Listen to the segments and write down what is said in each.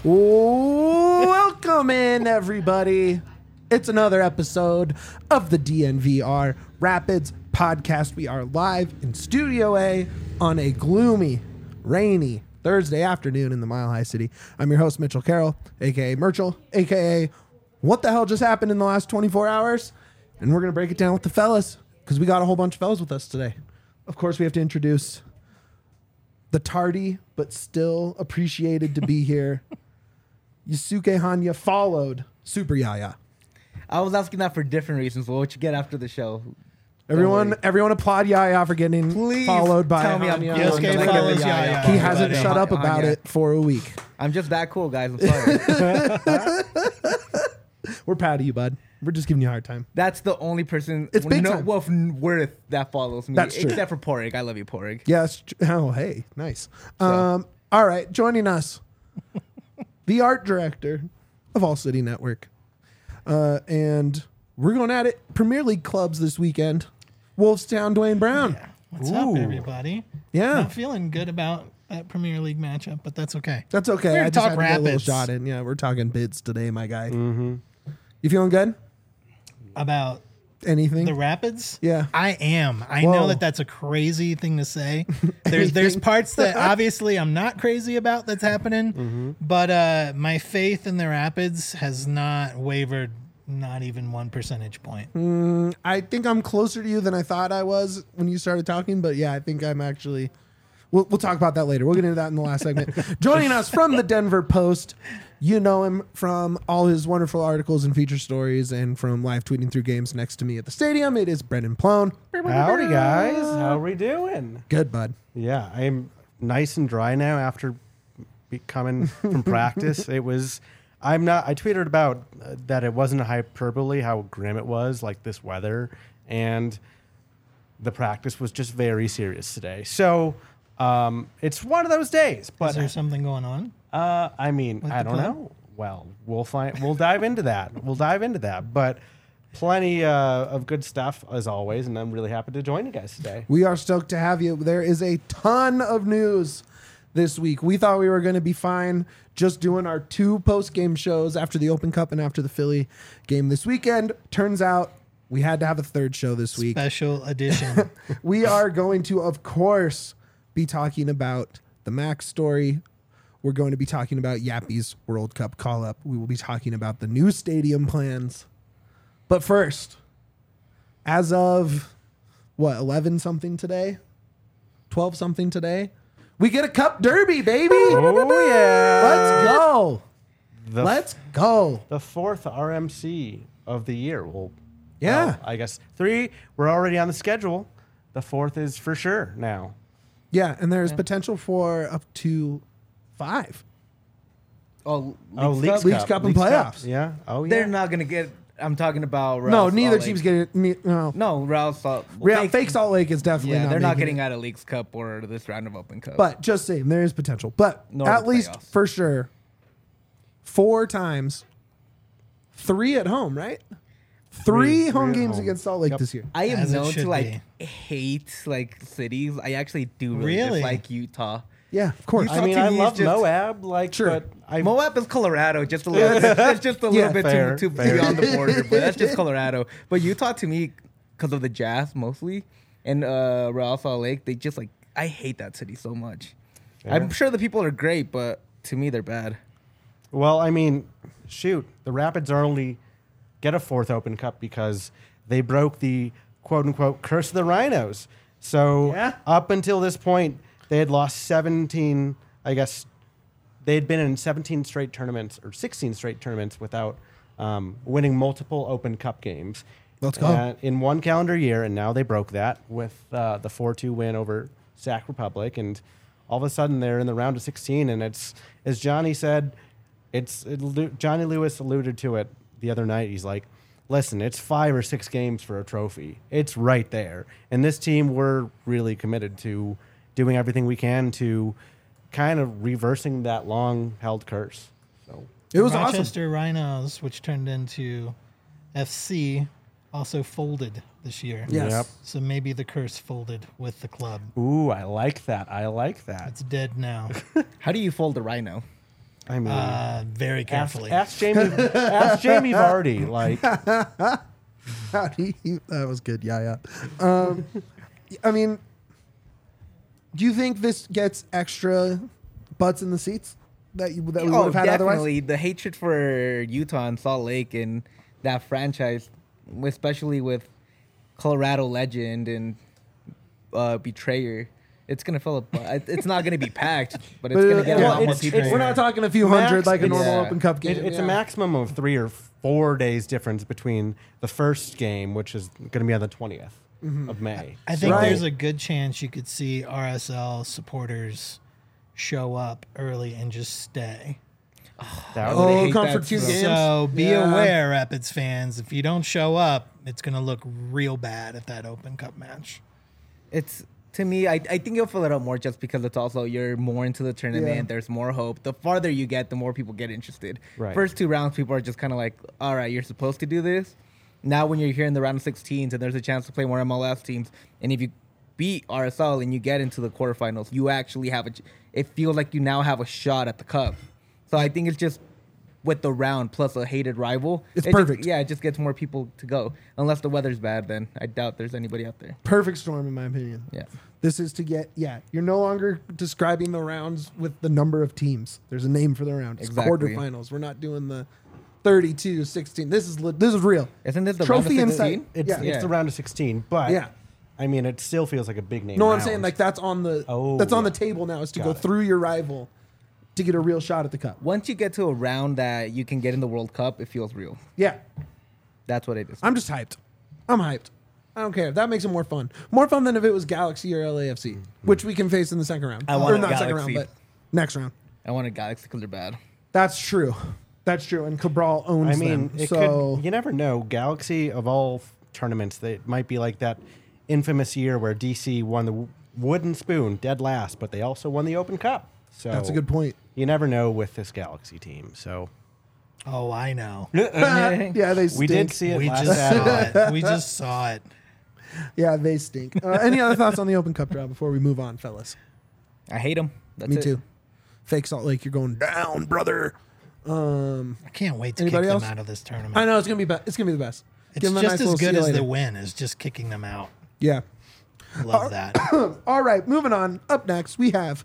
Welcome in, everybody. It's another episode of the DNVR Rapids podcast. We are live in Studio A on a gloomy, rainy Thursday afternoon in the Mile High City. I'm your host, Mitchell Carroll, a.k.a. Merchel, a.k.a. What the hell just happened in the last 24 hours? And we're going to break it down with the fellas because we got a whole bunch of fellas with us today. Of course, we have to introduce the tardy but still appreciated to be here. Yusuke Hanya followed Super Yaya. I was asking that for different reasons. Well, what you get after the show? Everyone applaud Yaya for getting followed by tell me I'm Hanya. cool. Yusuke follows Yaya. He hasn't Everybody. shut up about Hanya. it for a week. I'm just that cool, guys. I'm sorry. We're proud of you, bud. We're just giving you a hard time. That's the only person It's big time. worth that follows me. That's true. Except for Porig. I love you, Porig. Yes. Oh, hey, nice. All right, joining us, the art director of All City Network, and we're going at it. Premier League clubs this weekend. Wolfstown, Dwayne Brown. Yeah. What's up, everybody? Yeah. Not feeling good about that Premier League matchup, but that's okay. That's okay. We're I gonna just talk had to get a little Rapids. shot in. Yeah, we're talking bids today, my guy. Mm-hmm. You feeling good? About Anything? the Rapids? Yeah. I am. I Whoa. know that that's a crazy thing to say. There's parts that obviously I'm not crazy about that's happening, but my faith in the Rapids has not wavered, not even 1 percentage point. I think I'm closer to you than I thought I was when you started talking, but yeah, I think I'm actually. We'll talk about that later. We'll get into that in the last segment. Joining us from the Denver Post, you know him from all his wonderful articles and feature stories and from live tweeting through games next to me at the stadium. It is Brendan Plone. Howdy, guys. How are we doing? Good, bud. Yeah, I'm nice and dry now after coming from practice. I tweeted about that it wasn't a hyperbole, how grim it was, like this weather, and the practice was just very serious today. So it's one of those days. But Is there something going on? I mean, With I the don't club? know. Well, we'll find. We'll dive into that. But plenty of good stuff as always, and I'm really happy to join you guys today. We are stoked to have you. There is a ton of news this week. We thought we were going to be fine just doing our 2 post-game shows after the Open Cup and after the Philly game this weekend. Turns out we had to have a 3rd show this week. Special edition. We are going to, of course, be talking about the Max story. We're going to be talking about Yappy's World Cup call-up. We will be talking about the new stadium plans. But first, as of, 11-something today? 12-something today? We get a Cup Derby, baby! Oh yeah! Let's go! The Let's go! The 4th RMC of the year. Yeah. Well, I guess 3. We're already on the schedule. The 4th is for sure now. Yeah, and there's potential for up to 5. Leagues Cup. Leagues Cup and playoffs. Yeah. Oh yeah. They're not going to get... I'm talking about... No, Real neither Salt team's Lake. getting... No. No, Real Salt... Fake Salt Lake is definitely Yeah, not they're not making getting it. out of Leagues Cup or this round of Open Cup. But just saying, there is potential. But Nor at the least playoffs. for sure, 4 times, 3 at home, right? 3 home at games home. against Salt Lake Yep. this year. I am As it known should to hate cities. I actually do really Really? dislike Utah. Yeah, of course. Utah I mean, to I me is love just- Moab, Sure. but I Moab is Colorado, just a little. That's just a little Yeah, bit fair, too fair. beyond the border, but that's just Colorado. But Utah, to me, because of the Jazz mostly, and Real Salt Lake, they just I hate that city so much. Fair. I'm sure the people are great, but to me, they're bad. Well, I mean, shoot, the Rapids are only get a 4th Open Cup because they broke the quote-unquote curse of the Rhinos. So up until this point, they had lost 17, I guess, they had been in 17 straight tournaments or 16 straight tournaments without winning multiple Open Cup games. Let's go. In one calendar year, and now they broke that with the 4-2 win over Sac Republic, and all of a sudden they're in the round of 16, and it's, as Johnny said, Johnny Lewis alluded to it the other night. He's like, listen, it's 5 or 6 games for a trophy. It's right there. And this team, we're really committed to doing everything we can to kind of reversing that long-held curse. So It was awesome. Rochester Rhinos, which turned into FC, also folded this year. Yes. Yep. So maybe the curse folded with the club. Ooh, I like that. I like that. It's dead now. How do you fold a rhino? I mean, Very carefully. ask Jamie. Ask Jamie Vardy. Like, That was good. Yeah. I mean, do you think this gets extra butts in the seats that we would have had definitely. otherwise? The hatred for Utah and Salt Lake and that franchise, especially with Colorado legend and betrayer, it's gonna fill up. It's not gonna be packed, but it's gonna get a lot more people. We're not talking a few hundred like a normal yeah. Open Cup game. it's a maximum of 3 or 4 days difference between the first game, which is going to be on the 20th of May. I think Right. there's a good chance you could see RSL supporters show up early and just stay. That would would hate come that for 2 so- games. So be Yeah. aware, Rapids fans. If you don't show up, it's going to look real bad at that Open Cup match. It's to me, I think you'll fill it up more just because it's also you're more into the tournament. Yeah. There's more hope. The farther you get, the more people get interested. Right. First 2 rounds, people are just kind of like, all right, you're supposed to do this. Now, when you're here in the round of 16s and there's a chance to play more MLS teams, and if you beat RSL and you get into the quarterfinals, you actually have it feels like you now have a shot at the cup. So I think it's just with the round plus a hated rival. It's it perfect. It just gets more people to go. Unless the weather's bad, then I doubt there's anybody out there. Perfect storm, in my opinion. Yeah. This is to get, you're no longer describing the rounds with the number of teams. There's a name for the round. It's Exactly. quarterfinals. We're not doing the 32, 16. This is real. Isn't this the Trophy round of inside. 16? It's, Yeah. it's the round of 16, but Yeah. I mean, it still feels like a big name. No, I'm round. saying like that's on the Oh, that's on yeah. the table now is to Got go it. through your rival to get a real shot at the cup. Once you get to a round that you can get in the World Cup, it feels real. Yeah. That's what it is. I'm just hyped. I'm hyped. I don't care. That makes it more fun. More fun than if it was Galaxy or LAFC, which we can face in the second round. I want or a not second round, Galaxy. but next round. I want a Galaxy because they're bad. That's true. That's true. And Cabral owns I mean, them. it So could. You never know. Galaxy of all tournaments, they might be like that infamous year where DC won the wooden spoon dead last, but they also won the Open Cup. So that's a good point. You never know with this Galaxy team. So Oh, I know. Yeah, they stink. we did see it We last just Saturday. saw it. We just saw it. Yeah, they stink. Any other thoughts on the Open Cup draw before we move on, fellas? I hate them. That's Me it. too. Fake Salt Lake, you're going down, brother. I can't wait to kick Anybody them else? out of this tournament. I know it's gonna be it's gonna be the best. It's Give 'em a just nice as little good see you as the later. win is just kicking them out. Yeah. Love that. All right, moving on. Up next, we have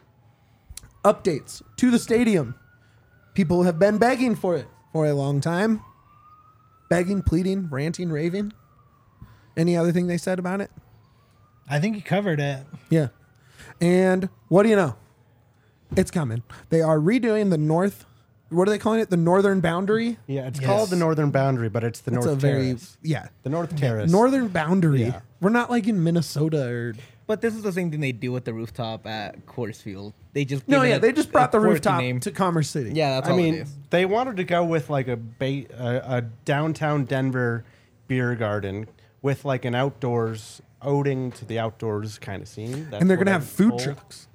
updates to the stadium. People have been begging for it for a long time. Begging, pleading, ranting, raving. Any other thing they said about it? I think you covered it. Yeah. And what do you know? It's coming. They are redoing the north. What are they calling it? The northern boundary. Yeah, it's Yes. called the Northern Boundary, but it's the That's North a very Terrace. yeah. The North Terrace. Northern boundary. Yeah. We're not like in Minnesota or But this is the same thing they do with the rooftop at Coors Field. They just no. give it Yeah, a- they just brought a the quirky rooftop name. to Commerce City. Yeah, that's I all it mean, is. they wanted to go with like a downtown Denver beer garden with like an outdoors owing to the outdoors kind of scene. That's and they're what gonna I'm have food told. trucks.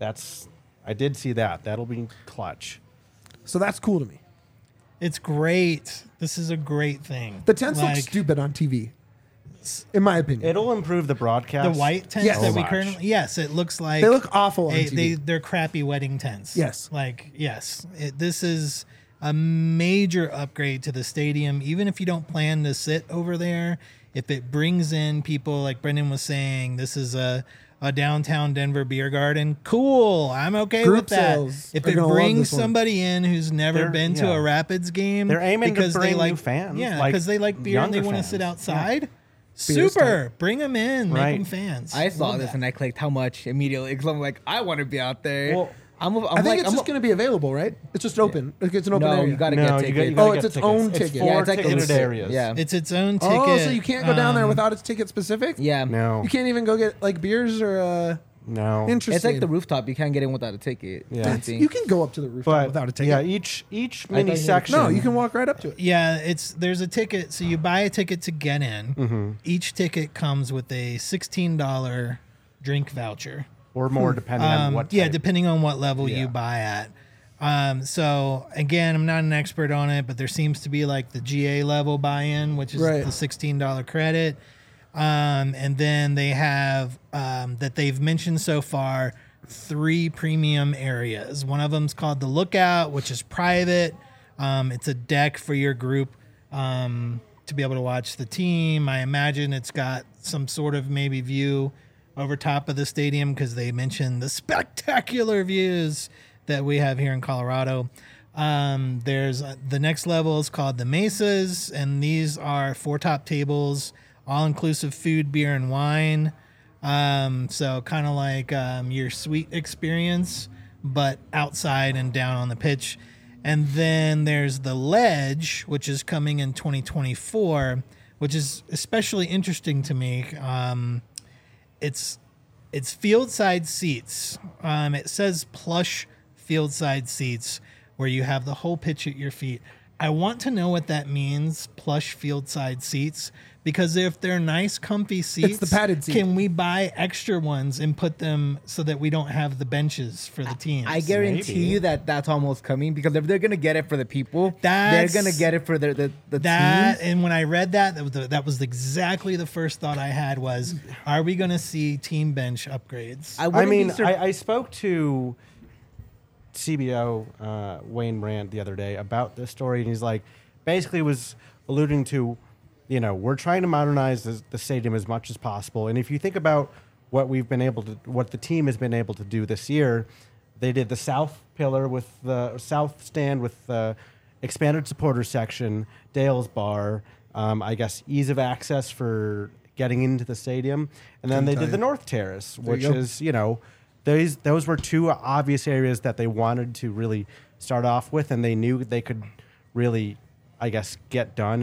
I did see that. That'll be clutch. So that's cool to me. It's great. This is a great thing. The tents look Like, stupid on TV, in my opinion. It'll improve the broadcast. The white tents Yes. that So we much. currently, yes, it looks like They look awful on TV. They're crappy wedding tents. Yes. like yes, this is a major upgrade to the stadium. Even if you don't plan to sit over there, if it brings in people like Brendan was saying, this is a downtown Denver beer garden. Cool, I'm okay Group with that. sales If are it gonna love brings this one. somebody in who's never They're- been to yeah. a Rapids game, They're aiming to because they bring like new fans, yeah, like because they like beer and they younger want to fans. sit Yeah. outside. Beer's Super, bring them in, make Right. them fans. I saw Love this that. and I clicked how much immediately because I'm like, I want to be out there. Well, I'm I think like, it's just going to be available, right? It's just open. Like it's an open no, area. you got to No, get you tickets. got- you Oh, gotta it's get its tickets. own It's ticket. four Yeah, it's like ticketed it's- areas. Yeah. It's its own ticket. Oh, so you can't go down there Um, without its ticket specific? Yeah. No. You can't even go get like beers or No. interesting. It's like the rooftop. You can't get in without a ticket. Yeah. Same thing. You can go up to the rooftop But without a ticket. yeah, each thought mini you- section. No, you can walk right up to it. Yeah, there's a ticket. So you buy a ticket to get in. Mm-hmm. Each ticket comes with a $16 drink voucher. or more depending on what. Yeah, type. depending on what level Yeah. you buy at. So again, I'm not an expert on it, but there seems to be like the GA level buy-in, which is Right. the $16 credit. And then they have that they've mentioned so far 3 premium areas. One of them's called the Lookout, which is private. It's a deck for your group to be able to watch the team. I imagine it's got some sort of maybe view over top of the stadium because they mentioned the spectacular views that we have here in Colorado. There's the next level is called the Mesas, and these are 4 top tables, all-inclusive food, beer, and wine. So kind of like your suite experience, but outside and down on the pitch. And then there's the Ledge, which is coming in 2024, which is especially interesting to me. It's field side seats. It says plush field side seats where you have the whole pitch at your feet. I want to know what that means, plush field side seats, because if they're nice, comfy seats, It's the padded seat. can we buy extra ones and put them so that we don't have the benches for the teams? I guarantee Maybe. you that's almost coming, because if they're gonna get it for the people, That's- they're gonna get it for the that, teams. and when I read that was exactly the first thought I had was, are we going to see team bench upgrades? I wouldn't mean, be sur- I spoke to CBO Wayne Brandt the other day about this story, and he's like, basically was alluding to, you know, we're trying to modernize the stadium as much as possible. And if you think about what the team has been able to do this year, they did the south pillar with the south stand with the expanded supporter section, Dale's bar, I guess ease of access for getting into the stadium, and then they did the north terrace, which you go. is, you know, those were 2 obvious areas that they wanted to really start off with, and they knew they could really, I guess, get done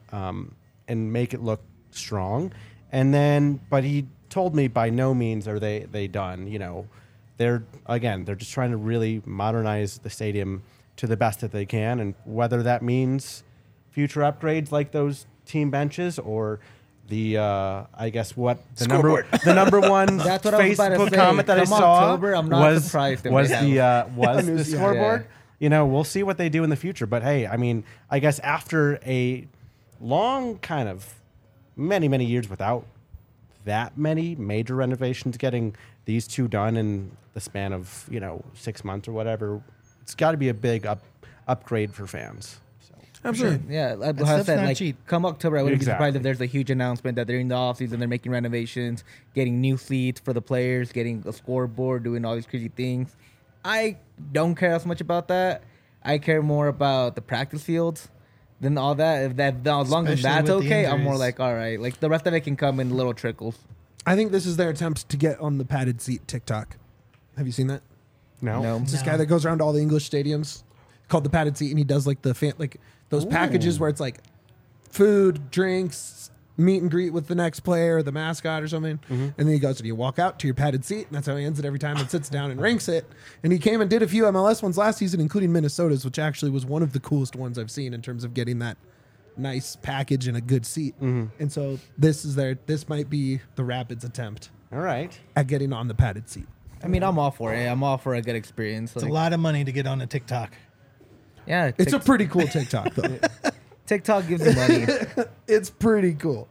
and make it look strong. And then, but he told me by no means are they done. You know, they're just trying to really modernize the stadium to the best that they can, and whether that means future upgrades like those team benches or the I guess what the number one That's what I was about to Facebook say. comment that I Come saw October, I'm not was surprised if was they the I knew- the yeah. scoreboard. Yeah. You know, we'll see what they do in the future. But hey, I mean, I guess after a long kind of many years without that many major renovations, getting these 2 done in the span of, you know, 6 months or whatever, it's got to be a big upgrade for fans. So. Absolutely. Yeah, like That I stuff's said, not like cheap. come October, I wouldn't be surprised Exactly. if there's a huge announcement that they're in the offseason, they're making renovations, getting new seats for the players, getting a scoreboard, doing all these crazy things. I don't care as much about that. I care more about the practice fields than all that. If that, as long as Especially that's with the okay, I'm more injuries. like, all right. Like the rest of it can come in little trickles. I think this is their attempt to get on the padded seat TikTok. Have you seen that? No. It's this No. guy that goes around to all the English stadiums called the padded seat, and he does like like those packages where it's like food, drinks, meet and greet with the next player, the mascot or something. And then he goes and you walk out to your padded seat, and that's how he ends it every time and sits down and ranks it. And he came and did a few MLS ones last season, including Minnesota's, which actually was one of the coolest ones I've seen in terms of getting that nice package and a good seat. And so this might be the Rapids attempt All right. at getting on the padded seat. I mean, I'm all for it. I'm all for a good experience. It's a Like, lot of money to get on a TikTok. yeah, It's a pretty cool TikTok though. TikTok gives you money. It's pretty cool.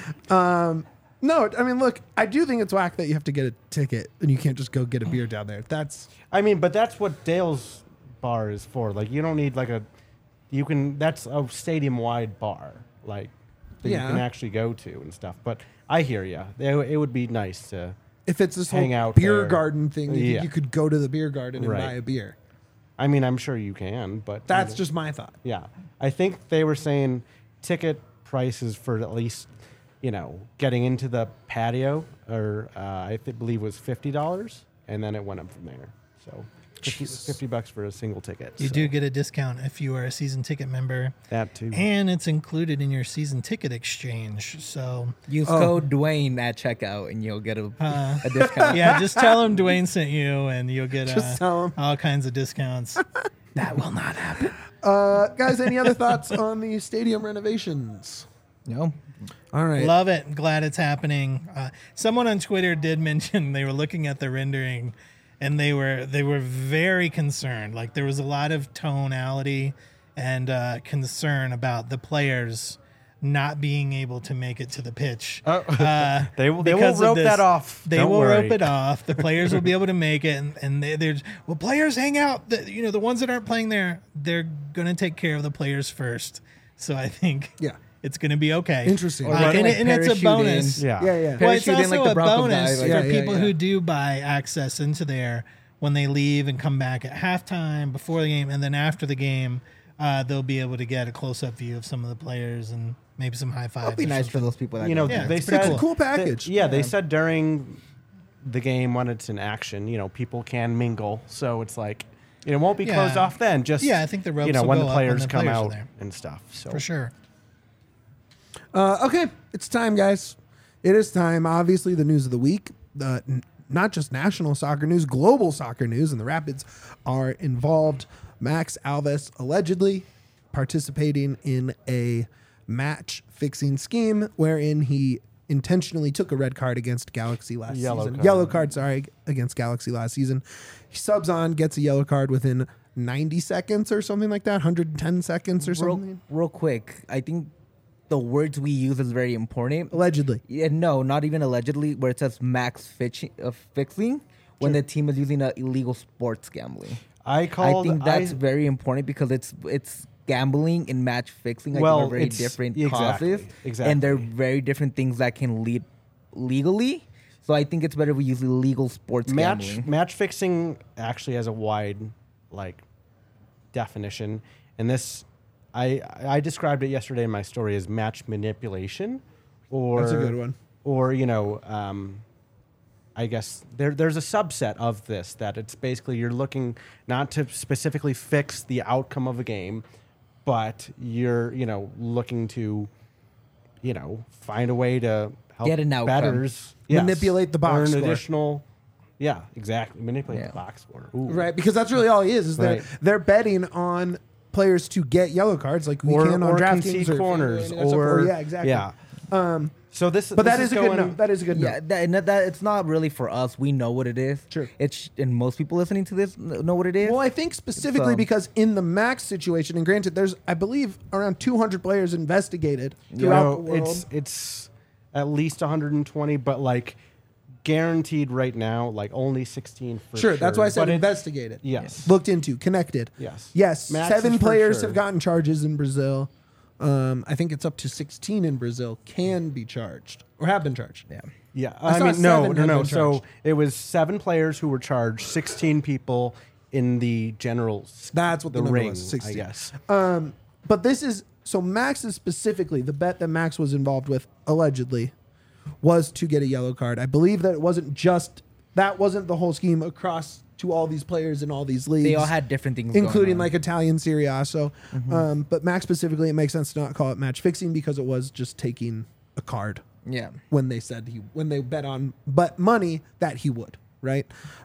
No, I mean, look, I do think it's whack that you have to get a ticket and you can't just go get a beer down there. That's I mean, but that's what Dale's bar is for. Like, you don't need that's a stadium wide bar, like, that Yeah. you can actually go to and stuff. But I hear you. It would be nice to. if it's this Hang whole out beer there. garden thing. You, Yeah. think you could go to the beer garden and Right. buy a beer. I mean, I'm sure you can, but That's just my thought. yeah. I think they were saying ticket prices for at least, you know, getting into the patio, or believe was $50, and then it went up from there. So $50 for a single ticket. You so do get a discount if you are a season ticket member, that too. and it's included in your season ticket exchange. So, Use code Dwayne at checkout, and you'll get a discount. yeah, just tell them Dwayne sent you, and you'll get Just tell 'em. all kinds of discounts. That will not happen. Guys, any other thoughts on the stadium renovations? No, All right. Love it. Glad it's happening. Someone on Twitter did mention they were looking at the rendering, and they were very concerned. Like there was a lot of tonality and concern about the players not being able to make it to the pitch. They will because of rope this. that off. They Don't will worry. rope it off. The players will be able to make it, and there's players hang out. The ones that aren't playing there, they're gonna take care of the players first. So I think it's gonna be okay. Interesting. Or And like it's a parachute bonus. in. Yeah. Well, it's Parachute in also like the a Broncos bonus guy, for like- people who do buy access into there when they leave and come back at halftime, before the game, and then after the game. They'll be able to get a close-up view of some of the players and maybe some high fives. It'd be nice for those people that Yeah, they it's pretty said cool. package. They said during the game when it's in action, people can mingle. So it's like it won't be closed off then. Just I think the ropes will when go the up players when the come players are out there. and stuff. So For sure. Okay, it's time, guys. It is time. Obviously, the news of the week, not just national soccer news, global soccer news, and the Rapids are involved. Max Alves allegedly participating in a match-fixing scheme wherein he intentionally took a red card against Galaxy last season. Yellow card, against Galaxy last season. He subs on, gets a yellow card within 90 seconds or something like that, 110 seconds or something. Real quick, I think the words we use is very important. Allegedly. Yeah, no, not even allegedly, where it says fixing when the team is using illegal sports gambling. I think that's very important because it's gambling and match fixing. Are very different causes, and they're very different things that can lead legally. So I think it's better we use illegal sports gambling. Match fixing actually has a wide definition, and this I described it yesterday in my story as match manipulation, or That's a good one. Or I guess there's a subset of this that it's basically you're looking not to specifically fix the outcome of a game, but you're looking to find a way to help Get an outcome. bettors Manipulate the box earn score. additional. Yeah, exactly. Manipulate the box score. Ooh. Right, because that's really all he is Right. they're betting on players to get yellow cards like we can on DraftKings concede or corners FanDuel and stuff. or yeah, exactly. Yeah. So this, But that this is a going, good note. That is a good Yeah, note. that it's not really for us. We know what it is. Sure. And most people listening to this know what it is. Well, I think specifically because in the Max situation, and granted, there's I believe around 200 players investigated throughout the world. It's at least 120, but guaranteed right now, only 16 for sure. Sure, that's why I said But investigated. Yes. Looked into, connected. Yes. Max is 7 for players sure. have gotten charges in Brazil. I think it's up to 16 in Brazil can be charged or have been charged. Yeah. Yeah, I I saw mean, 7 have no. been So charged. it was 7 players who were charged, 16 people in the general. That's what the number ring, was, 16. I guess. But this is so Max is specifically the bet that Max was involved with allegedly was to get a yellow card. I believe that it wasn't the whole scheme across to all these players in all these leagues. They all had different things, including going on. Italian Serie A. So, but Max specifically, it makes sense to not call it match fixing because it was just taking a card Yeah. when they bet on money that he would, right?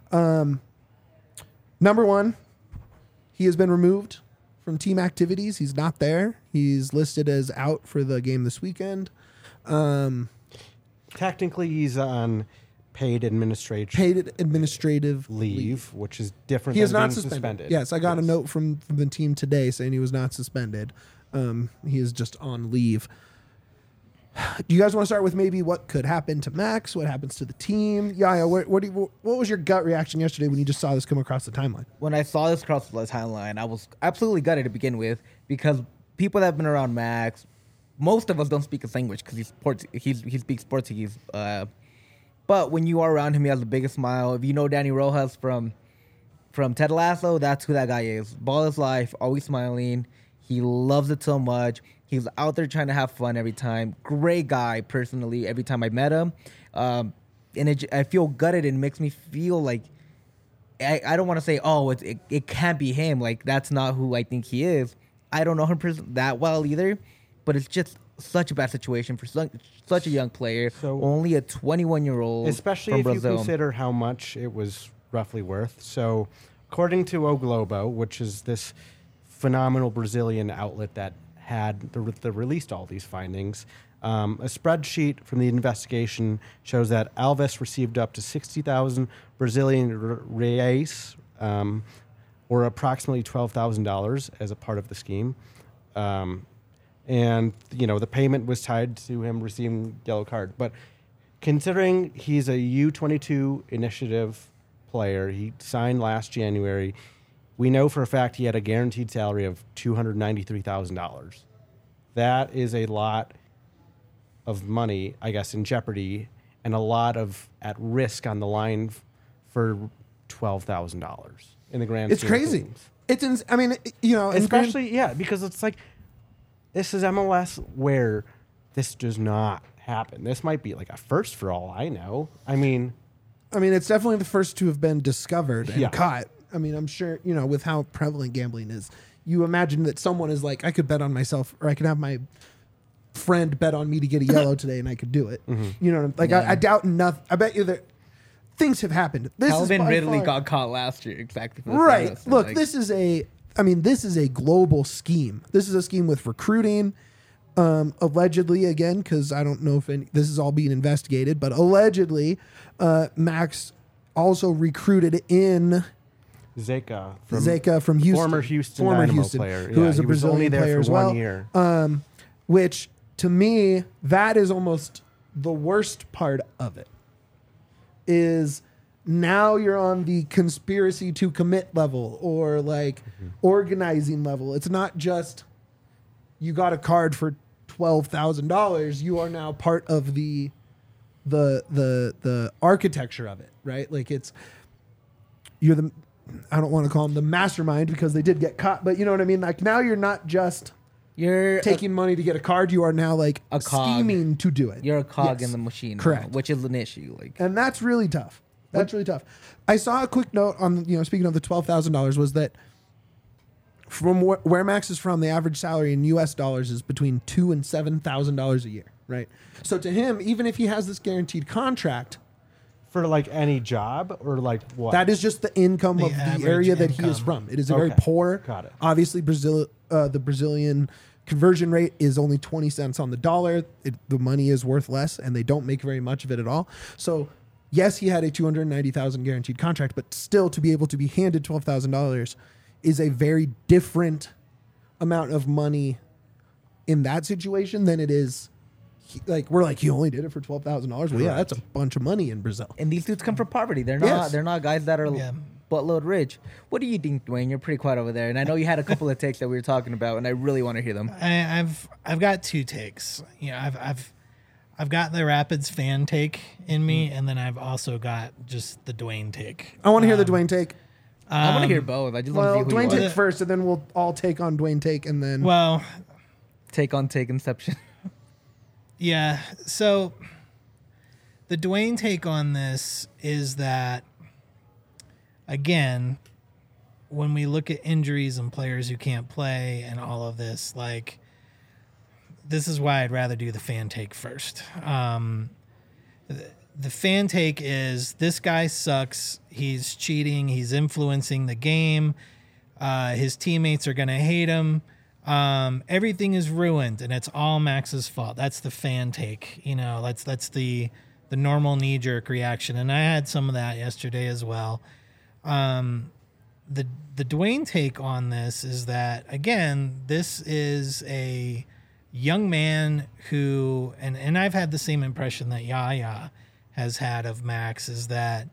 Number one, he has been removed from team activities. He's not there. He's listed as out for the game this weekend. Technically, he's on paid administrative leave. which is different He than is not being suspended. Yes, I got a note from the team today saying he was not suspended. He is just on leave. Do you guys want to start with maybe what could happen to Max? What happens to the team? Yaya, what was your gut reaction yesterday when you just saw this come across the timeline? When I saw this cross the timeline, I was absolutely gutted to begin with because people that have been around Max, most of us don't speak his language because he speaks Portuguese. But when you are around him, he has the biggest smile. If you know Danny Rojas from Ted Lasso, that's who that guy is. Ball his life, always smiling. He loves it so much. He's out there trying to have fun every time. Great guy, personally, every time I met him. And I feel gutted and makes me feel like I don't want to say, oh, it can't be him. Like, that's not who I think he is. I don't know him that well either, but it's just such a bad situation for such a young player. So, only a 21-year-old especially from if Brazil. you consider how much it was roughly worth. So, according to O Globo, which is this phenomenal Brazilian outlet that had released all these findings, a spreadsheet from the investigation shows that Alves received up to 60,000 Brazilian reais, or approximately $12,000 as a part of the scheme. and the payment was tied to him receiving yellow card. But considering he's a U22 initiative player, he signed last January. We know for a fact he had a guaranteed salary of $293,000. That is a lot of money, I guess, in jeopardy, and a lot of at risk on the line for $12,000 in the grand. It's scheme of crazy. things. I mean, Especially because it's like this is MLS where this does not happen. This might be like a first for all I know. I mean, it's definitely the first to have been discovered and Yeah. caught. I mean, I'm sure, with how prevalent gambling is, you imagine that someone is like, I could bet on myself, or I could have my friend bet on me to get a yellow today and I could do it. You know, like Yeah. I doubt enough. I bet you that things have happened. This Calvin is by Ridley far- got caught last year exactly for the Right. same reason. Look, Like, this is a global scheme. This is a scheme with recruiting, allegedly, again, because I don't know if this is all being investigated, but allegedly, Max also recruited in Zeka from Houston, former Houston Dynamo player, who is a he was only Brazilian there player for as well. 1 year. Which to me, that is almost the worst part of it. Is now you're on the conspiracy to commit level or like organizing level. It's not just you got a card for $12,000. You are now part of the architecture of it, right? Like you're the, I don't want to call them the mastermind because they did get caught, but you know what I mean? Like now you're not just you're taking money to get a card. You are now like A cog. scheming to do it. you're a cog Yes. in the machine, now, Correct. which is an issue. Like, And that's really tough. That's really tough. I saw a quick note on, speaking of the $12,000 was that from where Max is from, the average salary in US dollars is between $2,000 and $7,000 a year, right? So to him, even if he has this guaranteed contract, For like any job or like what? that is just the income The of the average area that he is income. from. It is a very Okay. poor. Got it. Obviously, the Brazilian conversion rate is only 20 cents on the dollar. The money is worth less, and they don't make very much of it at all. So, yes, he had a $290,000 guaranteed contract, but still, to be able to be handed $12,000 is a very different amount of money in that situation than it is. We're like, you only did it for $12,000. Well, yeah, that's a bunch of money in Brazil. and these dudes come from poverty. They're not. Yes. They're not guys that are Yeah. buttload rich. What do you think, Dwayne? You're pretty quiet over there, and I know you had a couple of takes that we were talking about, and I really want to hear them. I've got two takes. I've got the Rapids fan take in me, and then I've also got just the Dwayne take. I want to hear the Dwayne take. I want to hear both. I just want Well, to see who Dwayne you take are. first, and then we'll all take on Dwayne take, and then Well, Take on take Inception. yeah. So the Dwayne take on this is that, again, when we look at injuries and players who can't play and all of this, like, this is why I'd rather do the fan take first. The fan take is this guy sucks. He's cheating. He's influencing the game. His teammates are going to hate him. Everything is ruined, and it's all Max's fault. That's the fan take. That's the normal knee jerk reaction, and I had some of that yesterday as well. The Dwayne take on this is that, again, this is a young man who, and I've had the same impression that Yaya has had of Max, is that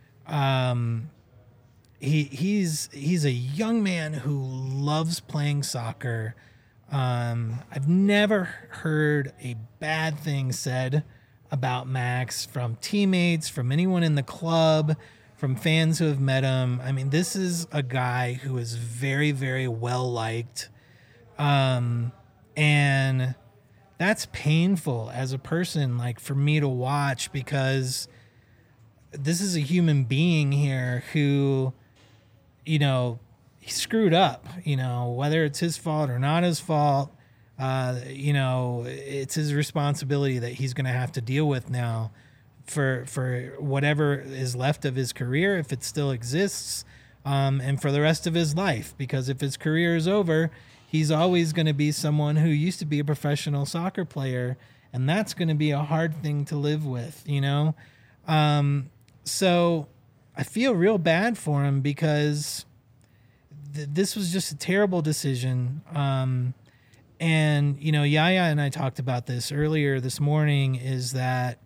he's a young man who loves playing soccer. I've never heard a bad thing said about Max from teammates, from anyone in the club, from fans who have met him. I mean, this is a guy who is very, very well liked. And that's painful as a person, like, for me to watch, because this is a human being here who, he screwed up, whether it's his fault or not his fault. It's his responsibility that he's going to have to deal with now for whatever is left of his career, if it still exists, and for the rest of his life. Because if his career is over, he's always going to be someone who used to be a professional soccer player, and that's going to be a hard thing to live with, So I feel real bad for him, because this was just a terrible decision. And, you know, Yaya and I talked about this earlier this morning, is that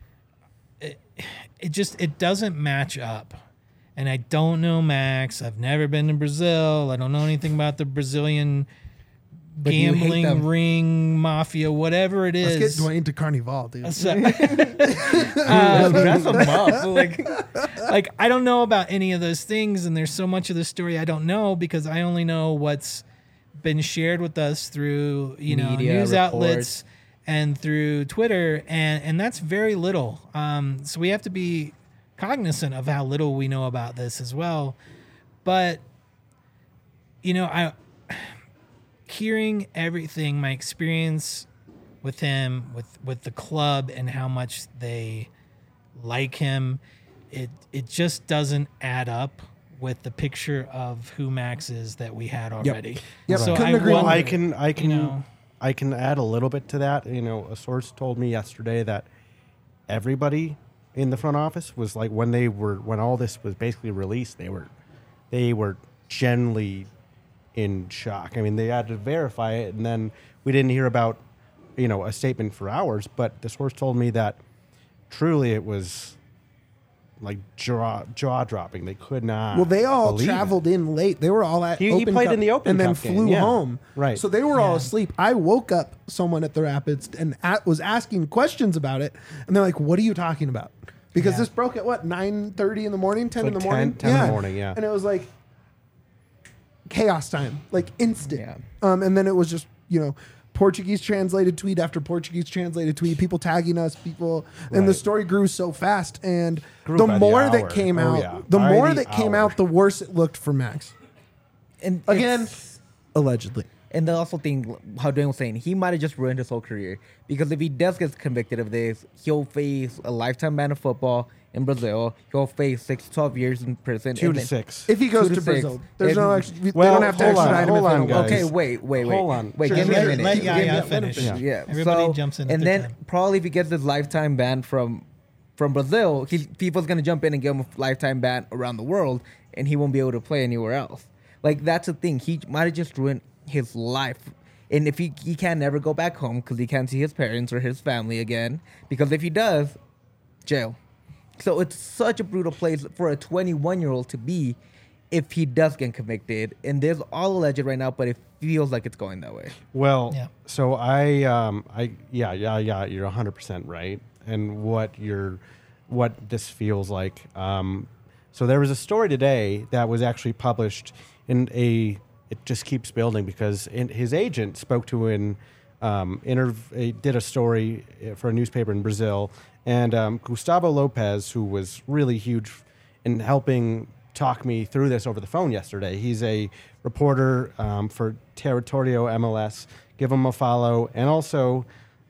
it doesn't match up. And I don't know Max. I've never been to Brazil. I don't know anything about the Brazilian But you hate gambling them. ring mafia, whatever it is. Let's get Dwayne to Carnival, dude. So- Dress them up. like I don't know about any of those things, and there's so much of the story I don't know, because I only know what's been shared with us through, you know, Media news reports. outlets and through Twitter, and that's very little. So we have to be cognizant of how little we know about this as well. But you know, hearing everything, my experience with him, with the club, and how much they like him, it just doesn't add up with the picture of who Max is that we had already. Yep. So Couldn't I agree more. wonder, you know, I can add a little bit to that. You know, a source told me yesterday that everybody in the front office was like, when all this was basically released, they were generally in shock. I mean, they had to verify it, and then we didn't hear about, you know, a statement for hours. But the source told me that truly it was like jaw dropping. They could not. Well, they all believe traveled in late. They were all at He Open played Cup in the Open and then Cup game, flew yeah. home. Right. So they were all Yeah. asleep. I woke up someone at the Rapids and was asking questions about it, and they're like, "What are you talking about?" Because Yeah. this broke at what, 9:30 in the morning, 10 Like in the morning, 10 in the morning, yeah. And it was like chaos time, like instant. Yeah. And then it was just, you know, Portuguese translated tweet after Portuguese translated tweet, people tagging us, and the Right. story grew so fast. And Grew the by the more hour. that came Oh, out, yeah. the By more the that came hour. out, the worse it looked for Max. And Again, it's- allegedly. And I also think, how Dwayne was saying, he might have just ruined his whole career. Because if he does get convicted of this, he'll face a lifetime ban of football in Brazil. He'll face 6 to 12 years in prison. 2 and to then- 6. If he goes 2 to to 6. Brazil, there's If- no extra. They Well, don't have to hold on, extradite him if hold they on, don't want guys. to. Okay, wait. Hold on. Wait, Sure. give me a Let- minute. let Give me Yaya a- let him finish. Yeah. Everybody So- jumps in at And their then time. probably if he gets this lifetime ban from Brazil, people's going to jump in and give him a lifetime ban around the world, and he won't be able to play anywhere else. Like, that's the thing. He might have just ruined his life. And if he can never go back home because he can't see his parents or his family again, because if he does, jail. So it's such a brutal place for a 21-year-old to be if he does get convicted. And there's all alleged right now, but it feels like it's going that way. Well, Yeah. so yeah, you're 100% right. And what this feels like. So there was a story today that was actually published in it just keeps building because his agent spoke to did a story for a newspaper in Brazil, and Gustavo Lopez, who was really huge in helping talk me through this over the phone yesterday. He's a reporter for Territorio MLS. Give him a follow, and also,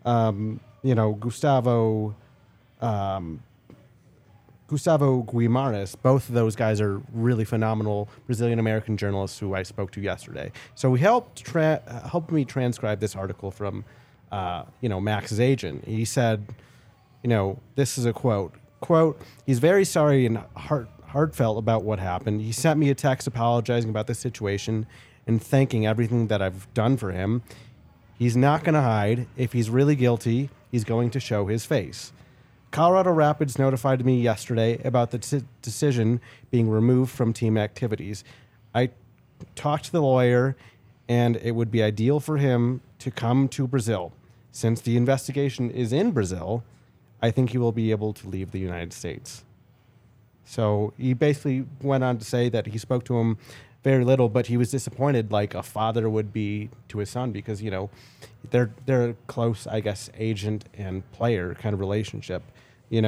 Gustavo Guimarães, both of those guys are really phenomenal Brazilian-American journalists who I spoke to yesterday. So he helped me transcribe this article from, Max's agent. He said, this is a quote, he's very sorry and heartfelt about what happened. He sent me a text apologizing about the situation and thanking everything that I've done for him. He's not going to hide. If he's really guilty, he's going to show his face. Colorado Rapids notified me yesterday about the decision being removed from team activities. I talked to the lawyer, and it would be ideal for him to come to Brazil. Since the investigation is in Brazil, I think he will be able to leave the United States. So he basically went on to say that he spoke to him very little, but he was disappointed like a father would be to his son because, they're a close, I guess, agent and player kind of relationship. He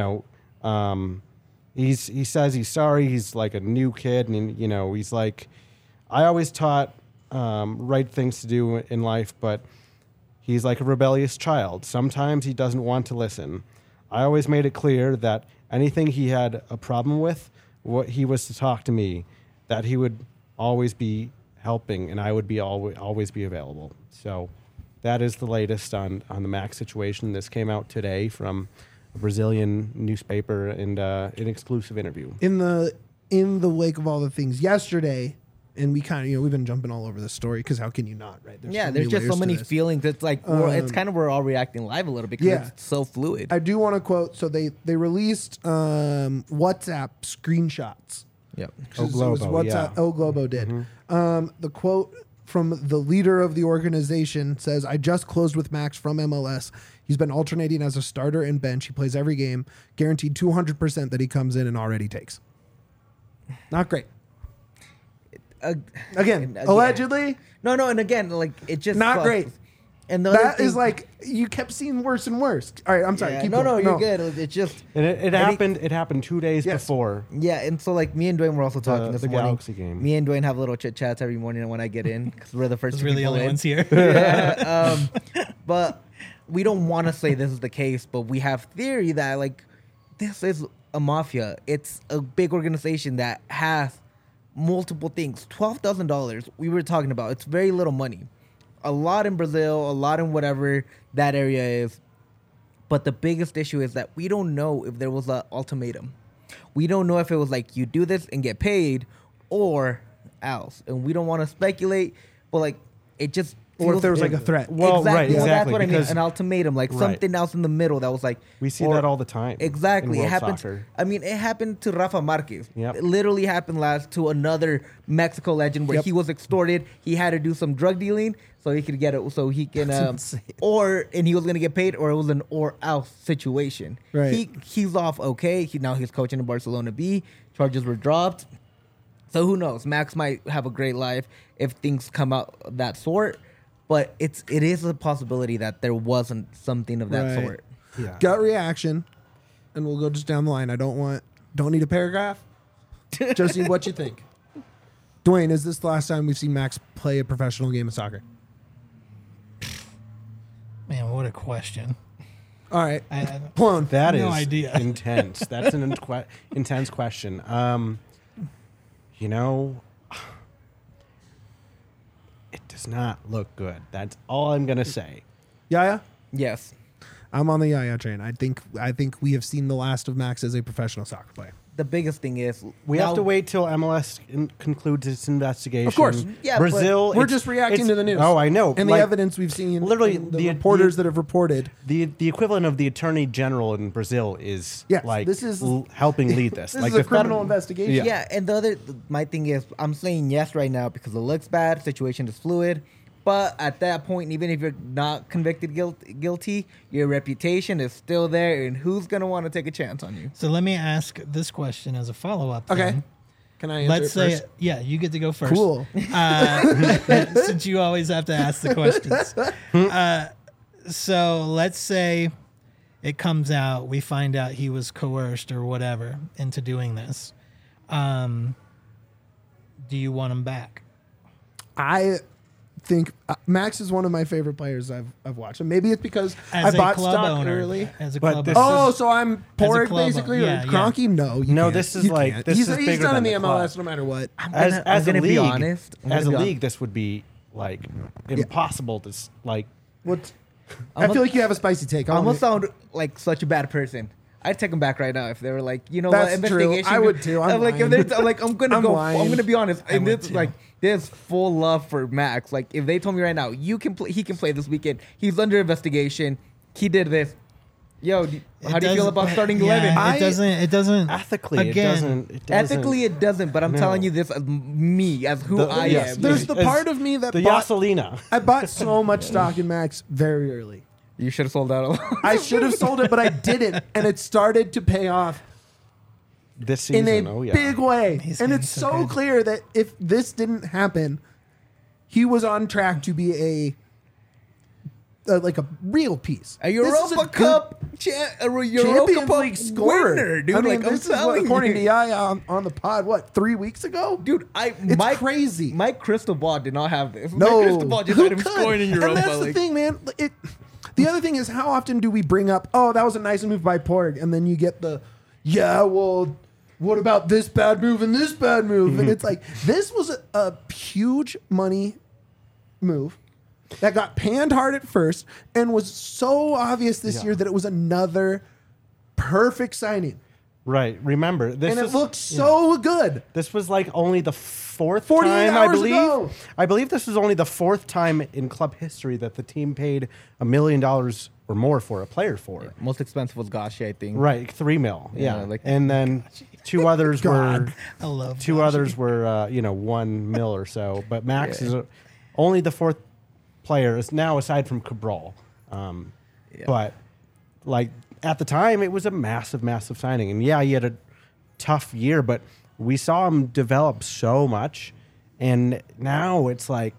says he's sorry. He's like a new kid, and he's like, I always taught right things to do in life, but he's like a rebellious child. Sometimes he doesn't want to listen. I always made it clear that anything he had a problem with, what he was to talk to me, that he would always be helping, and I would be always be available. So that is the latest on the Max situation. This came out today from a Brazilian newspaper and an exclusive interview. In the wake of all the things yesterday, and we kind of, we've been jumping all over the story because how can you not, right? There's many just so layers to many this. feelings. It's like it's kind of we're all reacting live a little bit because it's so fluid. I do want to quote. So they released WhatsApp screenshots. Yep. Oh, It was Globo, WhatsApp. yeah. Oh, Globo did. The quote from the leader of the organization says, "I just closed with Max from MLS. He's been alternating as a starter and bench. He plays every game. Guaranteed 200% that he comes in and already takes." Not great. Again, allegedly, No, and again, like it just not sucks. great. And the other That thing, is like you kept seeing worse and worse. All right, I'm sorry. yeah, Keep no, going. you're good. It just And it happened. It happened 2 days Yes. before. yeah, and so like me and Dwayne were also talking this the morning. Galaxy game. Me and Dwayne have little chit chats every morning when I get in because we're the first. Those two are the people only in. ones here. Yeah, but we don't want to say this is the case, but we have theory that like this is a mafia. It's a big organization that has multiple things. $12,000 we were talking about. It's very little money. A lot in Brazil, a lot in whatever that area is. But the biggest issue is that we don't know if there was an ultimatum. We don't know if it was like you do this and get paid or else. And we don't want to speculate, but like it just Or if feels- there was like a threat. Well, right, Well, that's exactly, what I mean. because- An ultimatum, like Right. something else in the middle that was like We see or- that all the time. Exactly, in it world happens. soccer. I mean, it happened to Rafa Marquez. Yep. It literally happened last to another Mexico legend where Yep. he was extorted. He had to do some drug dealing so he could get it. So he can, insane. and he was gonna get paid, or it was an or else situation. Right. He's off. Okay. Now he's coaching in Barcelona B. Charges were dropped. So who knows? Max might have a great life if things come out of that sort. But it is a possibility that there wasn't something of that Right. sort. Yeah. Gut reaction, and we'll go just down the line. I don't need a paragraph. Just need what you think. Dwayne, is this the last time we've seen Max play a professional game of soccer? Man, what a question. All right, I Plone. That is No idea. intense. That's an intense question. You know, it does not look good. That's all I'm gonna say. Yaya, Yes. I'm on the Yaya train. I think we have seen the last of Max as a professional soccer player. The biggest thing is We have to wait till MLS concludes its investigation. Of course. Yeah, but Brazil. We're it's- just reacting it's- to the news. Oh, I know. And the Like, evidence we've seen. literally, and the the- reporters the- that have reported. The equivalent of the attorney general in Brazil is Yes, like this is- helping lead this. This like is a the federal- criminal investigation. Yeah. Yeah, and my thing is, I'm saying yes right now because it looks bad, situation is fluid. But at that point, even if you're not convicted guilty, your reputation is still there, and who's gonna want to take a chance on you? So let me ask this question as a follow-up. Okay. then. Can I answer Let's it say, first? yeah, you get to go first. Cool. Since you always have to ask the questions. So let's say it comes out, we find out he was coerced or whatever into doing this. Do you want him back? I think Max is one of my favorite players I've watched. And maybe it's because As I a bought club stock owner. early. As a But club this owner. Oh, so I'm Porg club basically, owner. or Yeah, yeah. Kroenke? No, you No, can't. this is You like- can't. this he's is he's bigger done in than the the MLS club. no matter what. I'm As gonna a be league, honest. as a league, this would be like impossible to like. What? I feel like you have a spicy take. I I almost wanna- sound like such a bad person. I'd take him back right now if they were like, you know That's what, true. investigation. I would too. I'm like, lying. if they're like, I'm gonna I'm go. lying. I'm gonna be honest. And would this too. like, there's full love for Max. Like, if they told me right now, he can play this weekend. He's under investigation. He did this. Yo, how do you feel about starting 11? It doesn't. Ethically, Again, it doesn't. Ethically, it doesn't. But I'm No. telling you this as me, as who I yes, am. There's the As part of me that the bought, Yaselina. I bought so much stock in Max very early. You should have sold out. I should have sold it, but I didn't, and it started to pay off This in season, a oh yeah. big way. He's And getting it's so so good. clear that if this didn't happen, he was on track to be a like a real piece. A This is Europa good Cup, a Europa Champions Cup League scorer, winner, dude. I mean, like, I'm this is what, telling according you. to Yaya on the pod. What 3 weeks ago, Dude, It's crazy. My crystal ball did not have this. No, My crystal ball just who had him could? scoring in Europa. And that's the like, thing, man. The other thing is, how often do we bring up, "Oh, that was a nice move by Porg," and then you get the, "Yeah, well, what about this bad move and this bad move?" And it's like this was a huge money move that got panned hard at first and was so obvious this year that it was another perfect signing. Right. Remember, this and it is, looked so good. This was like only the fourth 48 time, I hours believe. ago. I believe this was only the fourth time in club history that the team paid $1 million or more for a player for it. Most expensive was Gashi, I think. Right, $3 million. Yeah, like- and then two others were I love two Gashi. others were $1 million or so. But Max is only the fourth player is now aside from Cabral. But like at the time, it was a massive, massive signing, and yeah, he had a tough year, but we saw him develop so much, and now it's like,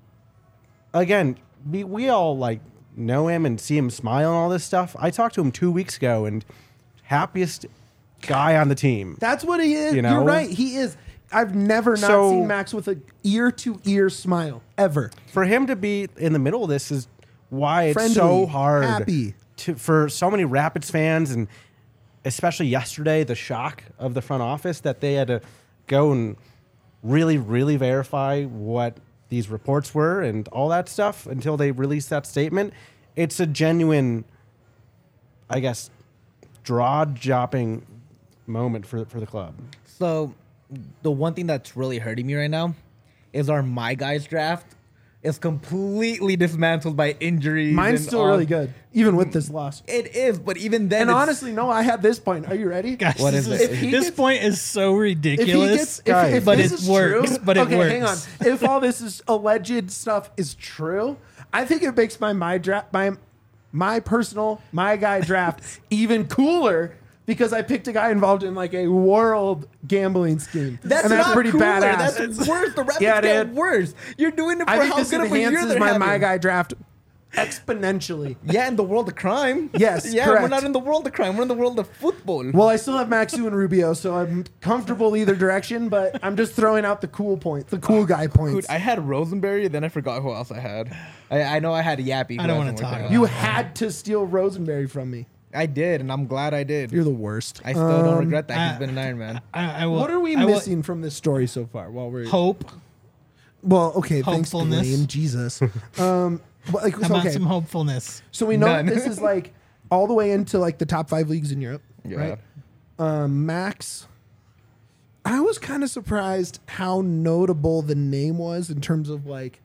again, we all like know him and see him smile and all this stuff. I talked to him 2 weeks ago, and happiest guy on the team. That's what he is. You know? You're right. He is. I've never not So- seen Max with a ear-to-ear smile ever. For him to be in the middle of this is why it's Friendly, so hard happy. for so many Rapids fans, and especially yesterday, the shock of the front office that they had to go and really, really verify what these reports were and all that stuff until they released that statement. It's a genuine, I guess, jaw-dropping moment for the club. So, the one thing that's really hurting me right now is our My Guys draft is completely dismantled by injuries. Mine's and still all. really good, even with this loss. It is, but even then, And it's- honestly, no, I had this point. Are you ready? Gosh, What this is is- it? If he this gets- point is so If he ridiculous. gets, Guys. if But this it is works, true, but it okay, hang on. works. If all this is alleged stuff is true, I think it makes my draft, my personal my guy draft even cooler because I picked a guy involved in like a world gambling scheme. That's and that's not pretty cooler. badass. That's worse. The Rapids Yeah, get dude. worse. You're doing it for I think how this good of a year enhances they're my having. my guy draft exponentially. Yeah, in the world of crime. Yes, yeah, we're correct. not in the world of crime. We're in the world of football. Well, I still have Maxu and Rubio, so I'm comfortable either direction. But I'm just throwing out the cool points, the cool guy points. Dude, I had Rosenberry, then I forgot who else I had. I know I had Yappy. I don't wanna talk about You had to steal Rosenberry from me. I did, and I'm glad I did. You're the worst. I still don't regret that. He's been an Iron Man. I will, What are we I will- missing from this story so far? While we're Hope. well, okay, thanks, Hopefulness. Dwayne. Jesus. But like, How so, about okay, some hopefulness? so we know that None. this is like all the way into like the top 5 leagues in Europe, Yeah. right? Max. I was kind of surprised how notable the name was in terms of like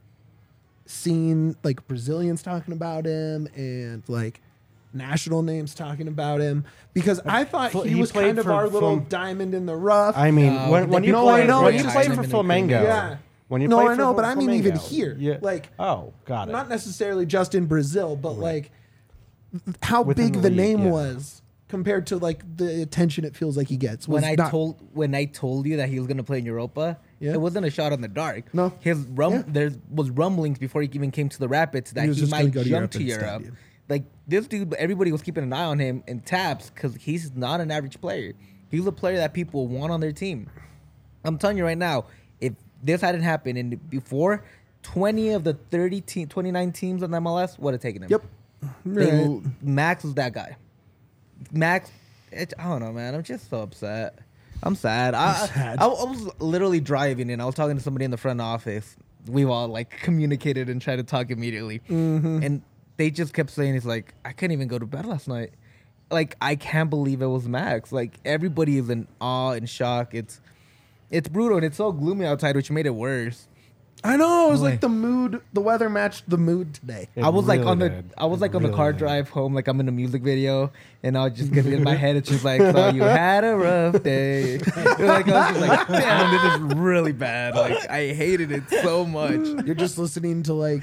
seeing like Brazilians talking about him and like national names talking about him because I thought Fl- he he was played kind of for our little Flam- diamond in the rough. I mean, No, when you no, I played know, when it's you just played him for in the Flamengo, Yeah. when you No, played I for know, but I mean even Flamengo, here. yeah. Like, oh, got it. not necessarily just in Brazil, but like how Within big the the league, name yeah. was compared to like the attention it feels like he gets. When was I not- told you that he was gonna play in Europa, Yeah. it wasn't a shot in the dark. No. Yeah. There was rumblings before he even came to the Rapids that He was he just gonna might go to jump Europe to and stab Europe. you. Like this dude, everybody was keeping an eye on him in taps because he's not an average player. He's a player that people want on their team. I'm telling you right now, if this hadn't happened and before, 20 of the 29 teams on MLS would have taken him. Yep. Right. Max was that guy. Max, I don't know, man. I'm just so upset. I'm sad. sad. I was literally driving and I was talking to somebody in the front office. We've all like communicated and tried to talk immediately. And they just kept saying, it's like, I couldn't even go to bed last night. Like, I can't believe it was Max. Like, everybody is in awe and shock. It's brutal and it's so gloomy outside, which made it worse. I know. It was Boy. like the weather matched the mood today. It I was like really on the did. I was It like on the really car did. drive home, like I'm in a music video, and I was just getting in my head. It's just like, so you had a rough day. Like I was just like, damn, this is really bad. Like I hated it so much. You're just listening to like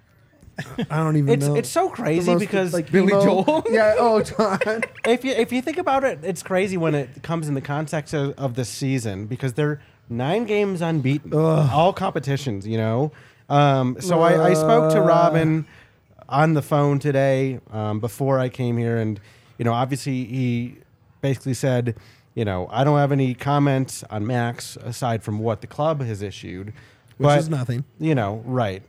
I don't even know. It's so The crazy most, because like Billy emo- Joel? Yeah. Oh, John. if you think about it, it's crazy when it comes in the context of the season because they're 9 games unbeaten, all competitions. You know, so I spoke to Robin on the phone today before I came here, and you know, obviously he basically said, you know, I don't have any comments on Max aside from what the club has issued, Which is nothing. You know, right.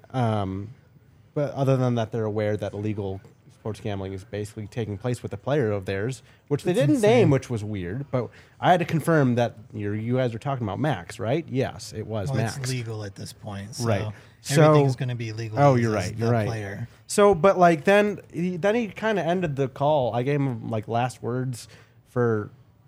But other than that, they're aware that illegal sports gambling is basically taking place with a player of theirs, which they didn't name, which was weird. But I had to confirm that you guys were talking about Max, right? Yes, it was Well, Max. it's legal at this point, so Right. everything's So- going to be legal. Oh, as you're right. the You're right. Player. So, but like then he kind of ended the call. I gave him like last words for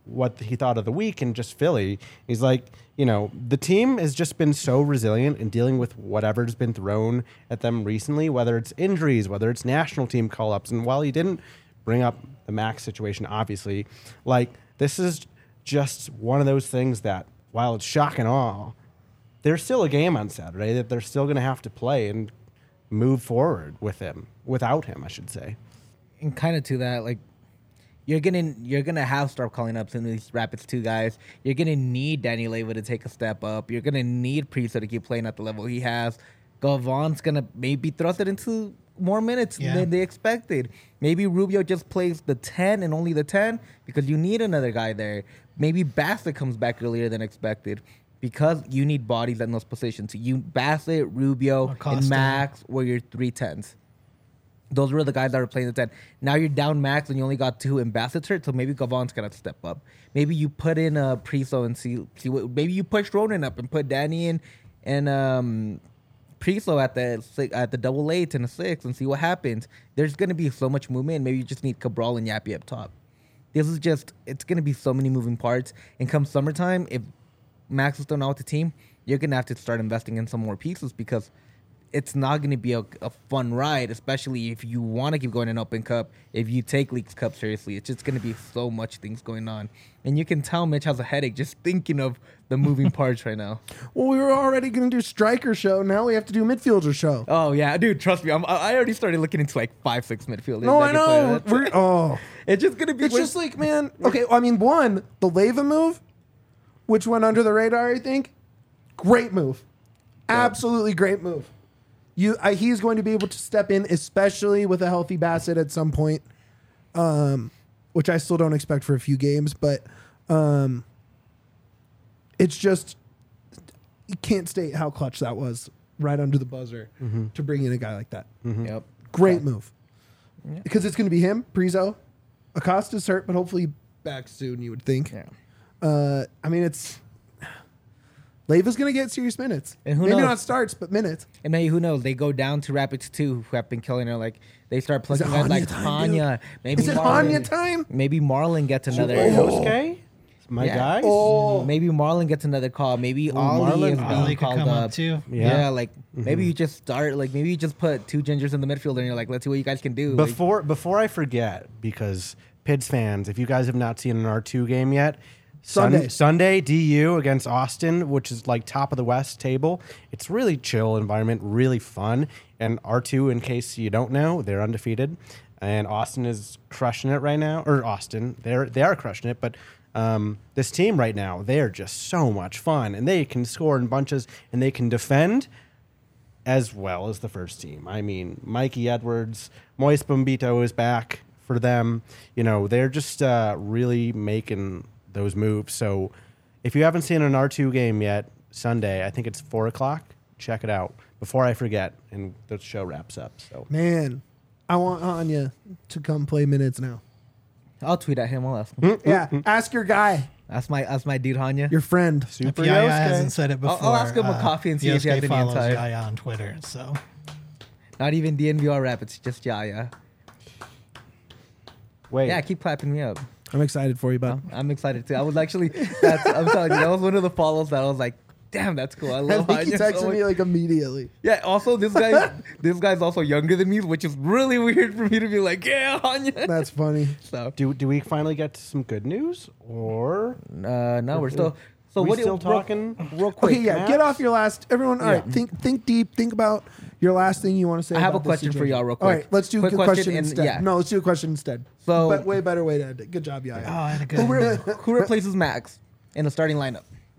what he thought of the week and just Philly. He's like, the team has just been so resilient in dealing with whatever's been thrown at them recently, whether it's injuries, whether it's national team call-ups. And while he didn't bring up the Max situation, obviously, like, this is just one of those things that, while it's shock and awe, there's still a game on Saturday that they're still going to have to play and move forward without him, I should say. And kind of to that, like, you're gonna have start calling up some of these Rapids 2 guys. You're gonna need Danny Leyva to take a step up. You're gonna need Priso to keep playing at the level he has. Galvan's gonna maybe thrusted into more minutes than they expected. Maybe Rubio just plays the 10 and only the 10 because you need another guy there. Maybe Bassett comes back earlier than expected because you need bodies in those positions. Bassett, Rubio, Acosta. and Max were your 3 10s. Those were the guys that were playing the 10. Now you're down Max and you only got 2 and Bassett's hurt, so maybe Galvan's going to step up. Maybe you put in Priso and see what. Maybe you push Ronan up and put Danny in and Priso at the double 8 and a 6 and see what happens. There's going to be so much movement. Maybe you just need Cabral and Yappy up top. It's going to be so many moving parts. And come summertime, if Max is still not with the team, you're going to have to start investing in some more pieces because it's not going to be a fun ride, especially if you want to keep going in Open Cup. If you take Leagues Cup seriously, it's just going to be so much things going on. And you can tell Mitch has a headache just thinking of the moving parts right now. Well, we were already going to do striker show. Now we have to do midfielder show. Oh, yeah. Dude, trust me. I already started looking into like 5-6 midfielders. No, I know. It's just going to be... It's just like, man, okay, I mean, one, the Leyva move, which went under the radar, I think, great move. Absolutely great move. He's going to be able to step in, especially with a healthy Bassett at some point, which I still don't expect for a few games. But it's just, you can't state how clutch that was right under the buzzer to bring in a guy like that. Yep. Great move. Yeah. Because it's going to be him, Priso. Acosta's hurt, but hopefully back soon, you would think. Yeah. I mean, it's... Leiva's going to get serious minutes. And Maybe not starts, but minutes. And maybe, who knows? They go down to Rapids 2, who have been killing her. Like, they start plugging guys like Hanya. Maybe Is it Hanya time? Maybe Marlon gets another... Yosuke? My guy? Oh. Maybe Marlon gets another call. Maybe Ollie is Ollie being could called come up. up too. Yeah, like, maybe you just start... Like, maybe you just put 2 gingers in the midfield and you're like, let's see what you guys can do. Before I forget, because Pids fans, if you guys have not seen an R2 game yet... Sunday, DU against Austin, which is like top of the West table. It's really chill environment, really fun. And R2, in case you don't know, they're undefeated. And Austin is crushing it right now. Or Austin, they are crushing it. But this team right now, they're just so much fun. And they can score in bunches and they can defend as well as the first team. I mean, Mikey Edwards, Moise Bombito is back for them. They're just really making those moves. So if you haven't seen an R2 game yet, Sunday, I think it's 4:00. Check it out before I forget, and the show wraps up. So Man, I want Anya to come play minutes now. I'll tweet at him. I'll ask him. Yeah, ask your guy, That's my dude, Hanya. your friend. Super If Yaya Yosuke. hasn't said it before. I'll ask him a coffee and see if he has Yosuke any follows insight. Yaya on Twitter, so... Not even DNVR Rapids, just Yaya. Wait, Yeah, keep clapping me up. I'm excited for you, bud. I'm excited too. I was actually, I'm telling you, that was one of the follows that I was like, damn, that's cool. I I love think he Hanya so texted much. me like immediately. Yeah, also this guy's also younger than me, which is really weird for me to be like, yeah, Hanya. That's funny. So, do we finally get some good news, or no, we're still. So we what still talking? real quick? Okay, yeah, Maps? get off your last. Everyone, all right, think deep. Think about your last thing you want to say. I have a about this question for situation. y'all real All quick. right, let's do Quick a question question and- instead. yeah. No, let's do a question instead. So- but way better way to end it. Good job, Yaya. Oh, I had a good... Who replaces Max in the starting lineup?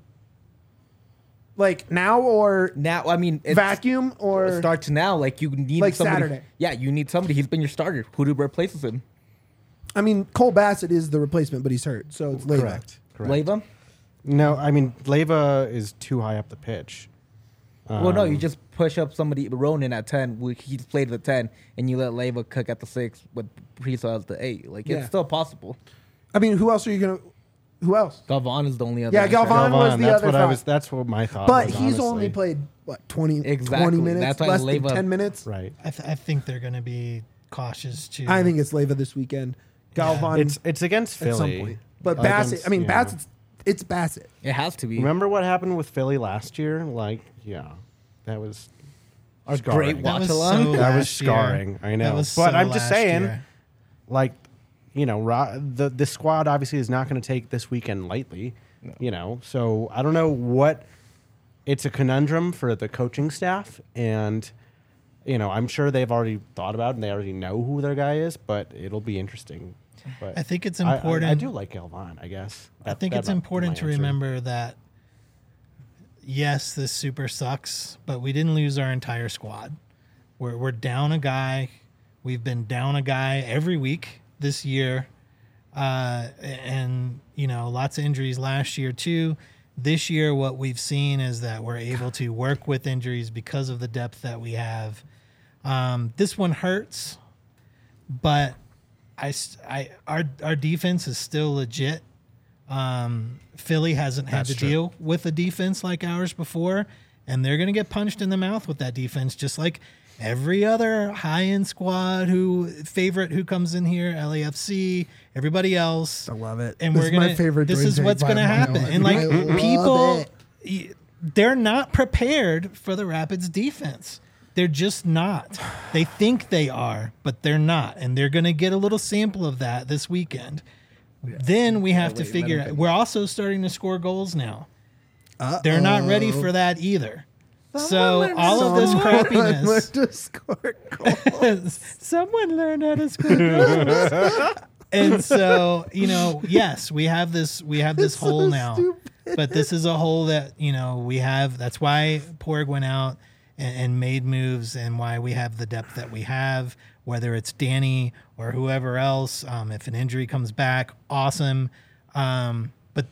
Like now or Now, I mean, it's vacuum or starts now. Like you need Like somebody. Saturday. Yeah, you need somebody. He's been your starter. Who replaces him? I mean, Cole Bassett is the replacement, but he's hurt, so it's Leyva. correct? Leyva? No, I mean Leyva is too high up the pitch. Well, no, you just push up somebody, Ronan at 10. He's played at 10, and you let Leyva cook at the 6 with Priso as the 8. Like, Yeah. it's still possible. I mean, who else are you gonna? Who else? Galvan is the only other. Yeah, answer. Galvan was the that's other what I thought. was. That's what my thought. But was, he's honestly. only played what 20 Exactly. minutes, That's why less than Leyva- 10 minutes. right. I think they're going to be cautious too. I think it's Leyva this weekend. Galvan. It's against At some Philly. point. But Bassett, Against- I mean, yeah. it's Bassett. It has to be. Remember what happened with Philly last year? Like, yeah, that was Our scarring. great That was watch-along? so That was last year. scarring. I know. That was But so I'm just last saying, year. like, you know, the squad obviously is not going to take this weekend lightly. You know, so I don't know what. It's a conundrum for the coaching staff, and you know, I'm sure they've already thought about it and they already know who their guy is. But it'll be interesting. But I think it's important. I do like Galvan. I guess. I think it's important to remember that, yes, this super sucks, but we didn't lose our entire squad. We're down a guy. We've been down a guy every week this year. And, you know, lots of injuries last year, too. This year, what we've seen is that we're able to work with injuries because of the depth that we have. This one hurts, but our defense is still legit. Philly hasn't had to deal with a defense like ours before, and they're going to get punched in the mouth with that defense, just like every other high-end squad who comes in here, LAFC, everybody else. I love it. And This we're is gonna. my favorite This Dwayne is take what's by going to a mile. happen, and like I love people, it. they're not prepared for the Rapids defense. They're just not. They think they are, but they're not, and they're going to get a little sample of that this weekend. Then we have to figure out. We're also starting to score goals now. They're not ready for that either. So all of this crappiness. Learn to score goals. Someone learned how to score goals. And so, you know, yes, we have this hole now. But this is a hole that, you know, we have. That's why Porg went out and made moves, and why we have the depth that we have, whether it's Danny or whoever else. If an injury comes back, awesome. But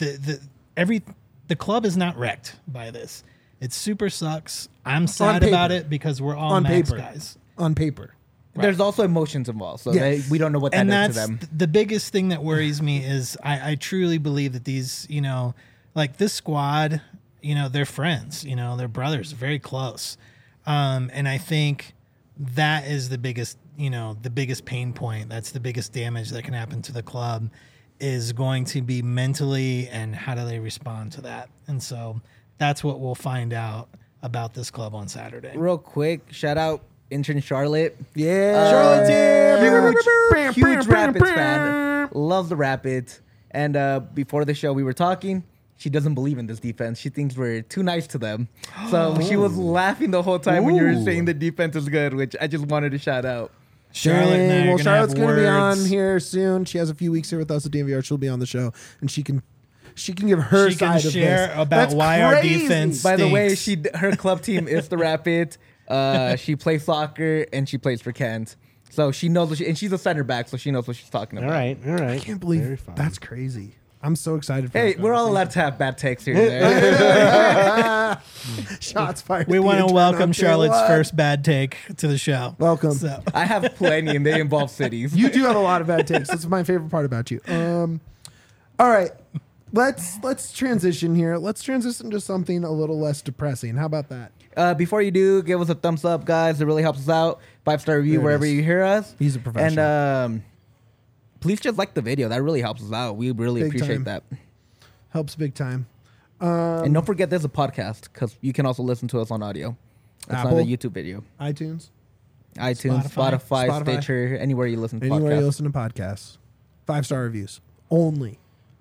the club is not wrecked by this. It super sucks. I'm sad about it because we're all On Max paper. guys. On paper. There's also emotions involved, so Yes. we don't know what that And is to that's them. the biggest thing that worries me is I truly believe that these, you know, like this squad, you know, they're friends, you know, they're brothers, very close. And I think that is the biggest, you know, the biggest pain point. That's the biggest damage that can happen to the club is going to be mentally, and how do they respond to that? And so that's what we'll find out about this club on Saturday. Real quick, shout out intern Charlotte. Yeah. Charlotte huge Rapids fan. Loves the Rapids. And before the show, we were talking. She doesn't believe in this defense. She thinks we're too nice to them. So she was laughing the whole time when you were saying the defense is good, which I just wanted to shout out. Charlotte and I are Well, gonna Charlotte's have going to be on words. here soon. She has a few weeks here with us at DNVR. She'll be on the show, and she can give her She can side of share this. about That's why our crazy. defense- By the way, Stinks. her club team is the Rapids. She plays soccer and she plays for Kent. So she knows and she's a center back, so she knows what she's talking about. All right. I can't believe that's crazy. I'm so excited for Hey, that we're all conversation. allowed to have bad takes here and there. Shots fired. We at the want to intern welcome out there. Charlotte's What? first bad take to the show. Welcome. So, I have plenty, and they involve cities. You do have a lot of bad takes. That's my favorite part about you. All right. Let's transition here. Let's transition to something a little less depressing. How about that? Before you do, give us a thumbs up, guys. It really helps us out. 5-star review There it wherever is. you hear us. He's a professional. And please just like the video. That really helps us out. We really Big appreciate time. that. Helps big time. And don't forget, there's a podcast because you can also listen to us on audio. It's Apple? not a YouTube video. iTunes. iTunes, Spotify, Stitcher, anywhere you listen to Anywhere podcasts. you listen to podcasts. 5-star reviews. Only.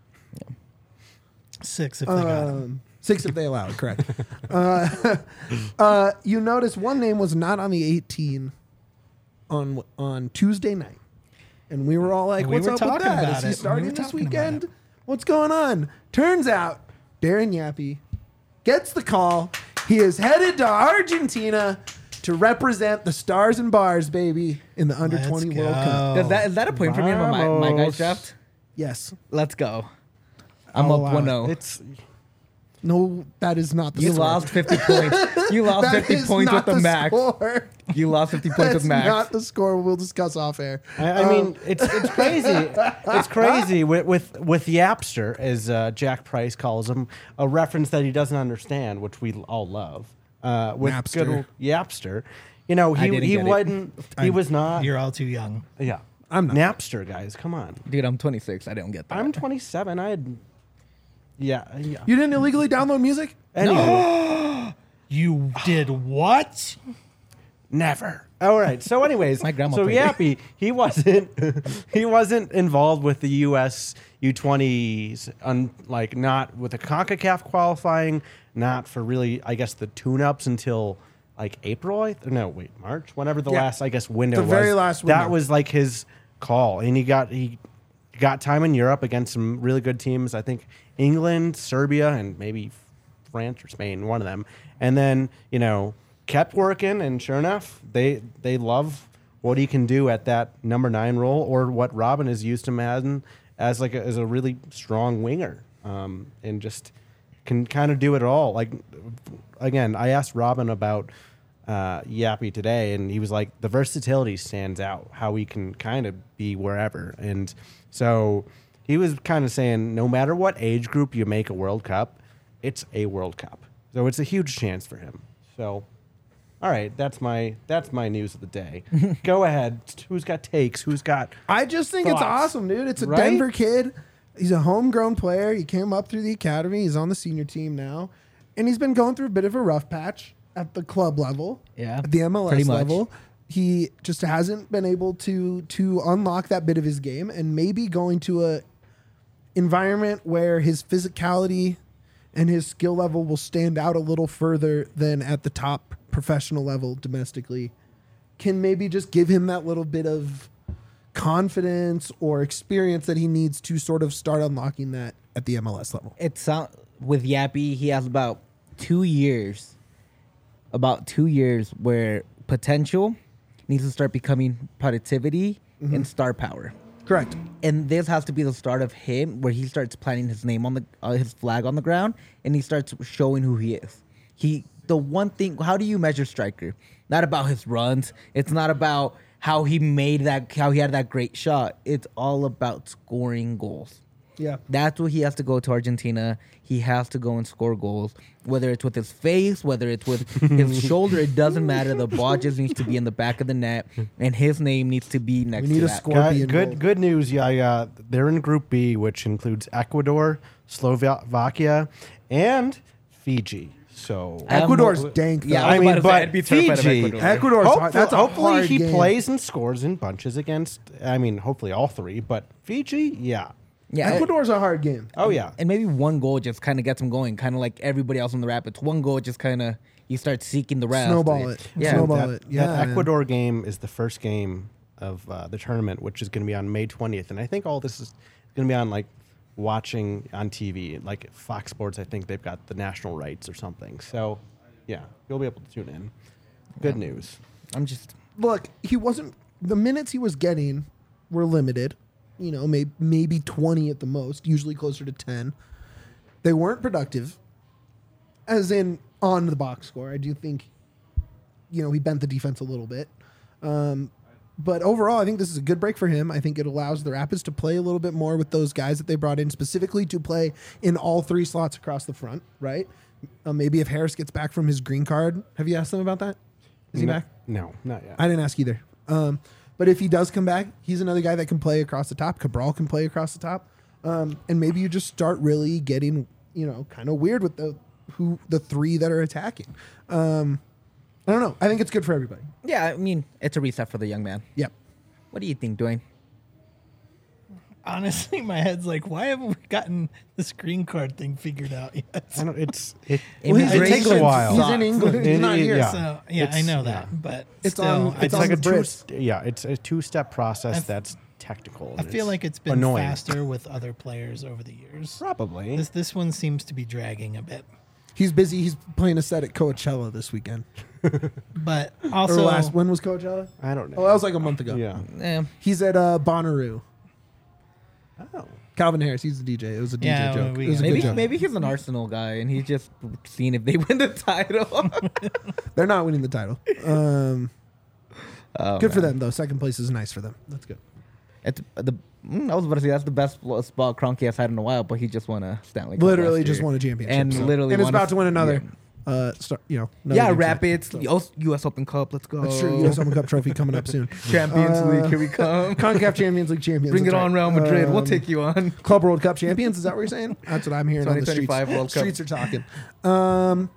6 if they got him. 6 if they allow it, correct. You notice one name was not on the 18 on Tuesday night. And we were all like, We what's were up with talking that? about Is he it. starting We were this talking about weekend? it. What's going on? Turns out Darren Yappy gets the call. He is headed to Argentina to represent the Stars and Bars, baby, in the Under 20 Let's World go. Cup. Is that a point for me on my guys Vamos. draft? Yes. Let's go. I'm I'll up allow it. 1-0. It's No, that is not the You score. lost 50 points. You lost That 50 is points not with the max. score. You lost 50 points That's with max. not the score. We'll discuss off air. I mean, it's crazy. It's crazy with Yapster, as Jack Price calls him, a reference that he doesn't understand, which we all love. With Napster. good old Yapster, you know, I didn't he get it. wasn't. He was not. You're all too young. Yeah. I'm not. Napster, guys, come on. Dude, I'm 26. I don't get that. I'm 27. I had, yeah. You didn't illegally download music? Anyway, You did what? never. All right. So, anyways, My grandma so played it. Yappy, he wasn't involved with the U.S. U20s, like not with the CONCACAF qualifying, not for really, I guess, the tune-ups until like April. No, wait, March. Whenever the Yeah. last, I guess, window The was. very last window. That was like his call, and he got time in Europe against some really good teams. I think England, Serbia, and maybe France or Spain, one of them. And then, kept working, and sure enough, they love what he can do at that number 9 role, or what Robin has used him as as a really strong winger, and just can kind of do it all. Like, again, I asked Robin about Yappy today, and he was like, the versatility stands out, how he can kind of be wherever. And so he was kind of saying, no matter what age group you make a World Cup, it's a World Cup. So it's a huge chance for him. So, all right, that's my news of the day. Go ahead. Who's got takes? Who's got? I just think it's Thoughts? awesome, dude. It's a Right? Denver kid. He's a homegrown player. He came up through the academy. He's on the senior team now. And he's been going through a bit of a rough patch at the club level. Yeah, At the MLS pretty much. level. He just hasn't been able to unlock that bit of his game, and maybe going to a environment where his physicality and his skill level will stand out a little further than at the top professional level domestically can maybe just give him that little bit of confidence or experience that he needs to sort of start unlocking that at the MLS level. It's with Yappy, he has about 2 years where potential needs to start becoming productivity and star power. Correct. And this has to be the start of him, where he starts planting his name on his flag on the ground, and he starts showing who he is. The one thing, how do you measure striker? Not about his runs. It's not about how he had that great shot. It's all about scoring goals. Yeah. That's what he has to go to Argentina. He has to go and score goals, whether it's with his face, whether it's with his shoulder. It doesn't matter. The ball just needs to be in the back of the net, and his name needs to be next We need to a that. score. Scorpion goal. Good news. Yeah, they're in Group B, which includes Ecuador, Slovakia, and Fiji. So Ecuador's dank, though. Yeah, I was mean, about to say, but I'd be terrified of Fiji, Ecuador. Ecuador's hard. That's a hopefully hard he game. plays and scores in bunches against. I mean, hopefully all three, but Fiji, yeah. Yeah, Ecuador's a hard game. Oh yeah. and maybe one goal just kind of gets him going, kind of like everybody else in the Rapids. One goal just kind of you start seeking the rest. Snowball it. Yeah. Snowball that, it. Yeah, that man. Ecuador game is the first game of the tournament, which is going to be on May 20th, and I think all this is going to be on like watching on TV, like Fox Sports. I think they've got the national rights or something. So, yeah, you'll be able to tune in. Good news. I'm just Look, he wasn't. The minutes he was getting were limited. Maybe 20 at the most. Usually closer to 10. They weren't productive, as in on the box score. I do think, he bent the defense a little bit. But overall, I think this is a good break for him. I think it allows the Rapids to play a little bit more with those guys that they brought in, specifically to play in all 3 slots across the front, right? Maybe if Harris gets back from his green card. Have you asked them about that? Is he back? No, not yet. I didn't ask either. But if he does come back, he's another guy that can play across the top. Cabral can play across the top. And maybe you just start really getting, kind of weird with the 3 that are attacking. I don't know. I think it's good for everybody. yeah. I mean, it's a reset for the young man. Yep. What do you think, Dwayne? Honestly, my head's like, why haven't we gotten this green card thing figured out yet? I don't. It Immigration takes a while. He's in England. He's not here. Yeah. So yeah, I It's- know yeah. that, but It's still, on- It's on like the a Brits. it's a 2-step process that's technical. I and feel like it's been annoying. faster with other players over the years. Probably. This one seems to be dragging a bit, He's busy. He's playing a set at Coachella this weekend. but Or also when was Coachella? I don't know. Oh, that was like a month ago. Yeah. Eh, He's at Bonnaroo. Oh. Calvin Harris. He's the DJ. It was a DJ Yeah, joke. we It was a got good maybe joke. maybe he's an Arsenal guy, and he's just seeing if they win the title. They're not winning the title. Oh, Good for man. them though. Second place is nice for them. That's good. It's I was about to say that's the best spot Kroenke has had in a while, but he just won a Stanley Cup Literally last just year. won a championship. and so- literally and is won about to win another. another Yeah, game Rapids, tonight. the U.S. Open Cup. Let's go. That's true. U.S. Open Cup trophy coming up soon. Champions League, here we come. CONCACAF Champions League champions. Bring it that's on, right. Real Madrid. We'll take you on. Club World Cup champions. Is that what you're saying? That's what I'm hearing on the streets. 2025 World Cup. Streets are talking.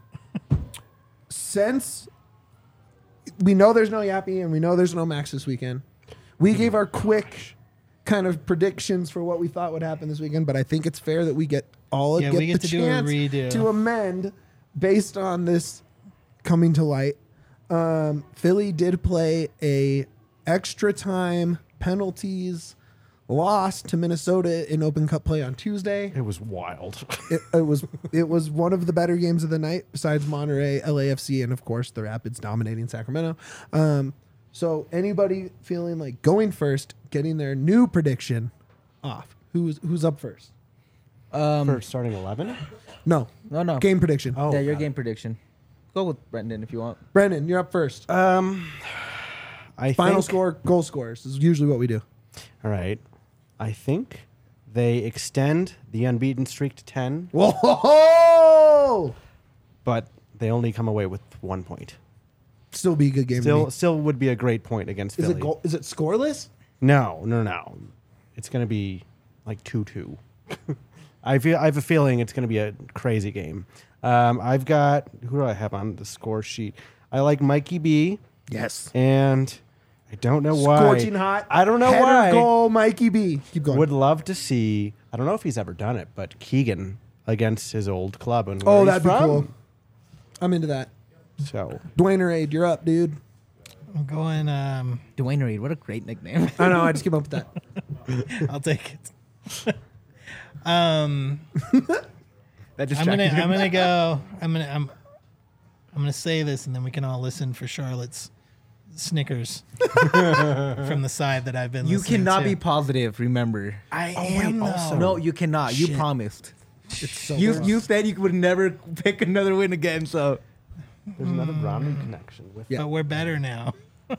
Since we know there's no Yappy and we know there's no Max this weekend, we gave our quick kind of predictions for what we thought would happen this weekend. But I think it's fair that we get we get the to do a chance redo. to amend based on this coming to light. Philly did play a extra time penalties loss to Minnesota in Open Cup play on Tuesday. It was wild. It was one of the better games of the night besides Monterey, LAFC, and of course the Rapids dominating Sacramento. So anybody feeling like going first, getting their new prediction off? Who's up first? For starting 11? No, No. game prediction. Oh, Yeah, your God. game prediction. Go with Brendan if you want. Brendan, you're up first. I Final think, score, goal scorers is usually what we do. All right. I think they extend the unbeaten streak to 10, Whoa! but they only come away with 1 point. Still be a good game. to me. Still would be a great point against Is Philly. it goal? Is it scoreless? No. It's going to be like 2-2. I have a feeling it's going to be a crazy game. I've got, who do I have on the score sheet? I like Mikey B, Yes. and I don't know why. Scorching hot. I don't know Header why. goal, Mikey B. Keep going. Would love to see, I don't know if he's ever done it, but Keegan against his old club. And Oh, where that'd he's be from. cool. I'm into that. So, Dwayne Raid, you're up, dude. I'm going. Dwayne Reed, what a great nickname. I know. I just came up with that. I'll take it. That I'm gonna go. I'm gonna say this, and then we can all listen for Charlotte's snickers from the side that I've been. You listening cannot to. be positive, remember. I am though. also- No, you cannot. You Shit. promised. It's so You said you would never pick another win again, so. there's another Browning connection with Yeah. But we're better now.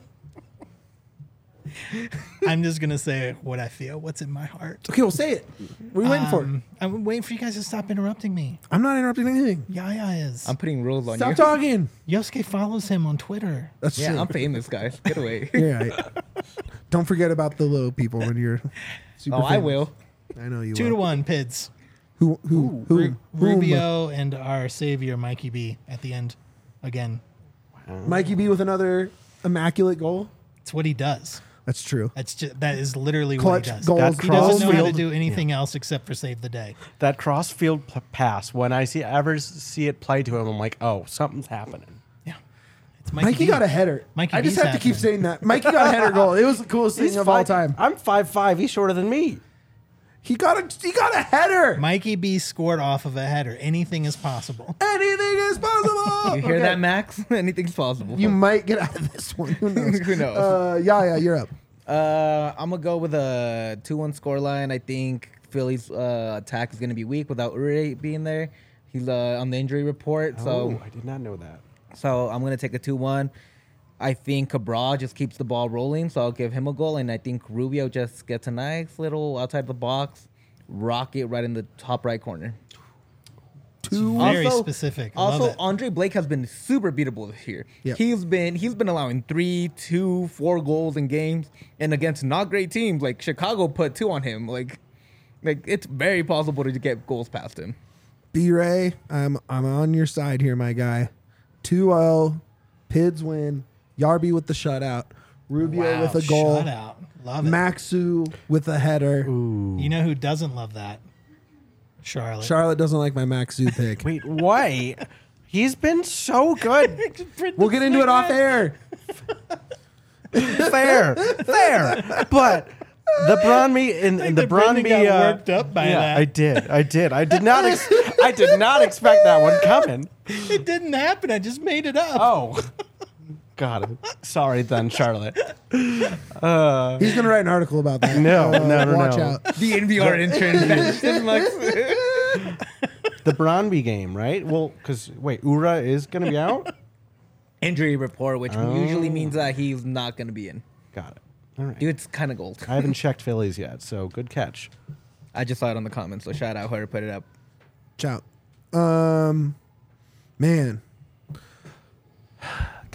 I'm just gonna say what I feel. What's in my heart. Okay, well, say it. What are you waiting for? I'm waiting for you guys to stop interrupting me. I'm not interrupting anything. Yaya is. I'm putting rules on Stop you. talking. Yosuke follows him on Twitter. That's Yeah, true. I'm famous, guys. Get away. You're right. Don't forget about the little people when you're super Oh, I famous. will. I know you 2-1 Pids. will. Who? Rubio and our savior Mikey B at the end again. Mikey B with another immaculate goal. It's what he does. That's true. That is literally Clutch what he does. goals. That He doesn't know how to Crossfield- do anything else except for save the day. that crossfield pass. When I ever see it play to him, I'm like, oh, something's happening. Yeah. It's Mikey B. got a header. Mikey I just B's have to keep happening. saying that. Mikey got a header goal. It was the coolest thing of all time. I'm 5'5". He's shorter than me. He got a header. Mikey B scored off of a header. Anything is possible. Anything is possible. You hear Okay. that, Max? Anything's possible. You might get out of this one. Who knows? Who knows? Yeah, you're up. I'm gonna go with a 2-1 scoreline. I think Philly's attack is gonna be weak without Ure being there. He's on the injury report, Oh, I did not know that. so I'm gonna take a 2-1. I think Cabral just keeps the ball rolling, so I'll give him a goal, and I think Rubio just gets a nice little outside the box rocket right in the top right corner. Very Also- specific. Love Also, it. Andre Blake has been super beatable this year. Yep. He's been allowing 3, 2, 4 goals in games, and against not great teams like Chicago put 2 on him. Like it's very possible to get goals past him. B Ray, I'm on your side here, my guy. 2-0. Pids win. Yarby with the shutout. Rubio Wow, with a goal. shutout. Love it. Maxu with a header. You know who doesn't love that? Charlotte. Charlotte doesn't like my Maxu pick. Wait, why? He's been so good. We'll get into it off air. fair. But the Bronby and the Brendan Bronby got worked up by that. I did. I did not. I did not expect that one coming. It didn't happen. I just made it up. Oh, God. Sorry, then, Charlotte. He's gonna write an article about that. No. Watch out. The NVR intern. The Bronby game, right? Well, because wait, Ura is going to be out. Injury report, which usually means that he's not going to be in. Got it. All right. Dude, it's kind of gold. I haven't checked Phillies yet, so good catch. I just saw it on the comments, so shout out whoever put it up. Ciao. Man,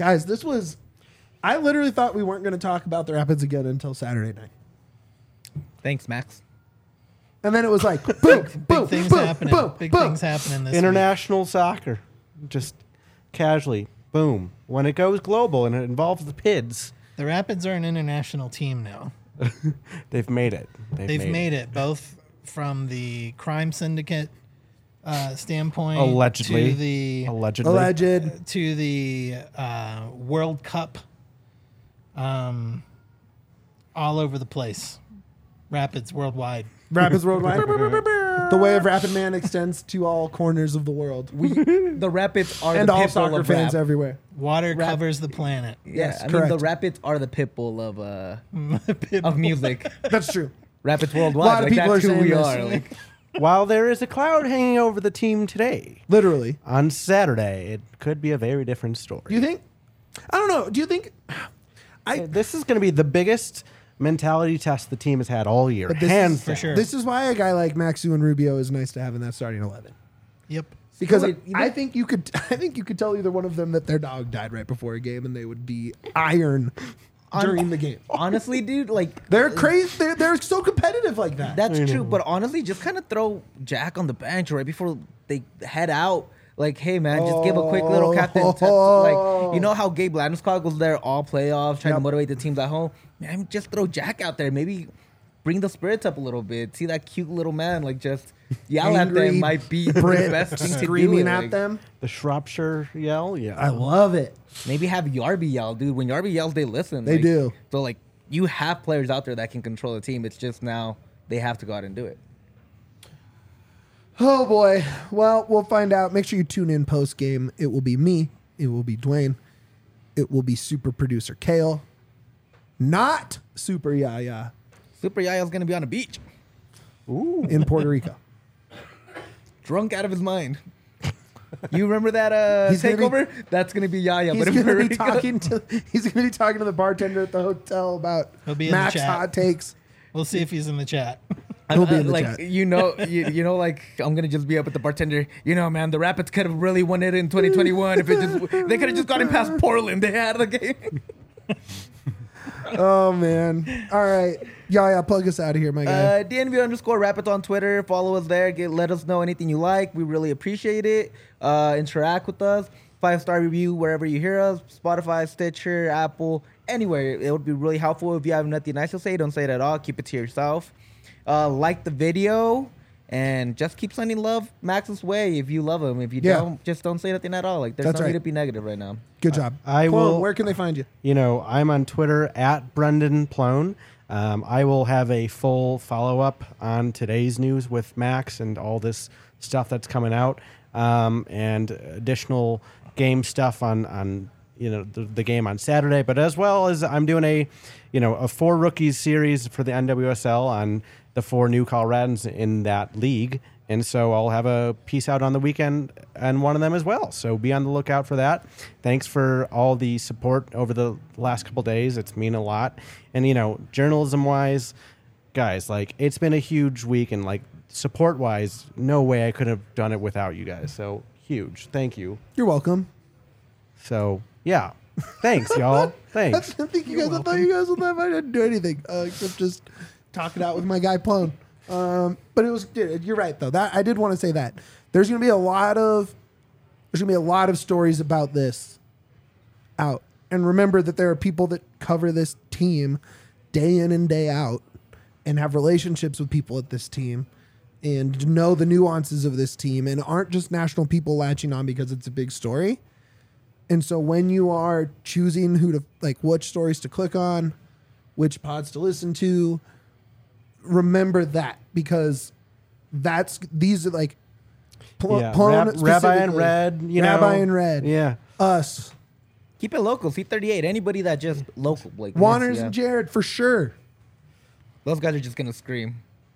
Guys, this was. I literally thought we weren't going to talk about the Rapids again until Saturday night. Thanks, Max. And then it was like, boom, Big boom, things boom, happening. boom, Big boom. things happening this week. International soccer, just casually, boom. When it goes global and it involves the PIDs, The Rapids are an international team now. they've made it. They've made it both from the crime syndicate standpoint, Allegedly. to the Allegedly. Alleged. to the World Cup, all over the place. Rapids worldwide. Rapids worldwide. The way of Rapid Man extends to all corners of the world. The Rapids are And the all pit bull soccer of fans rap. everywhere. Water Rap- covers the planet. Yeah, Yes, I mean the correct. Rapids are the pit bull of Pitbull. of music. That's true. Rapids A worldwide. lot of Like, people that's are who saying we this. are. Like, While there is a cloud hanging over the team today, Literally. on Saturday, it could be a very different story. Do you think? I don't know. Do you think? This is going to be the biggest mentality test the team has had all year. But this Hands is- for down. sure. This is why a guy like Maxu and Rubio is nice to have in that starting 11. Yep. Because Wait, you I know- think you could. I think you could tell either one of them that their dog died right before a game, and they would be iron during the game. honestly, dude, like They're crazy. They're so competitive like that. that's true. But honestly, just kind of throw Jack on the bench right before they head out. Like, hey man, just give a quick little captain. Like, you know how Gabe Landeskog was there all playoffs trying to Yep. motivate the teams at home. Man, just throw Jack out there. Maybe bring the spirits up a little bit. See that cute little man, like just yell at Angry them might be the Brit best thing to do. screaming at Like, them. The Shropshire yell, yeah. I love it. Maybe have Yarby yell, dude. When Yarby yells, they listen. They Like, do. So like, you have players out there that can control the team. It's just now they have to go out and do it. Oh boy. Well, we'll find out. Make sure you tune in post game. It will be me. It will be Dwayne. It will be super producer Kale. Not Super Yaya Super Yaya's gonna be on a beach, in Puerto Rico. drunk out of his mind. You remember that He's gonna be- takeover? That's gonna be Yaya, He's but in gonna Puerto be Rico. talking to. He's gonna be talking to the bartender at the hotel about He'll be in the Max chat. hot takes. We'll see if he's in the chat. He'll be in the like chat. you know, like I'm gonna just be up with the bartender. You know, man, the Rapids could have really won it in 2021 if it just they could have just gotten past Portland. They had the game. Oh man! All right, Yaya, plug us out of here, my guy. DNV_Rapids on Twitter. Follow us there. Let us know anything you like. We really appreciate it. Interact with us. 5-star review wherever you hear us. Spotify, Stitcher, Apple, anywhere. It would be really helpful. If you have nothing nice to say, don't say it at all. Keep it to yourself. Like the video. And just keep sending love Max's way if you love him. If you Yeah. don't, just don't say nothing at all. Like, there's That's no need right. to be negative right now. Good job. I Clone, will- Where can they find you? You know, I'm on Twitter at Brendan Plone. I will have a full follow up on today's news with Max and all this stuff that's coming out, and additional game stuff on the game on Saturday. But as well as I'm doing a 4 rookies series for the NWSL on the 4 new Coloradans in that league. And so I'll have a piece out on the weekend and one of them as well. So be on the lookout for that. Thanks for all the support over the last couple days. It's mean a lot. And, journalism wise, guys, like it's been a huge week, and like support wise, no way I could have done it without you guys. So huge. Thank you. You're welcome. So yeah. Thanks, y'all. Thanks. I think I thought you guys would laugh. I didn't do anything except just talk it out with my guy Plone. But it was. You're right though. That I did want to say that there's going to be a lot of stories about this out. And remember that there are people that cover this team day in and day out and have relationships with people at this team and know the nuances of this team and aren't just national people latching on because it's a big story. And so when you are choosing which stories to click on, which pods to listen to, remember that, because these are like Rabbi and specifically. Red, Rabbi and Red. Yeah. Us. Keep it local. C38. Anybody that just local. Like Wanners yeah. and Jared for sure. Those guys are just going to scream.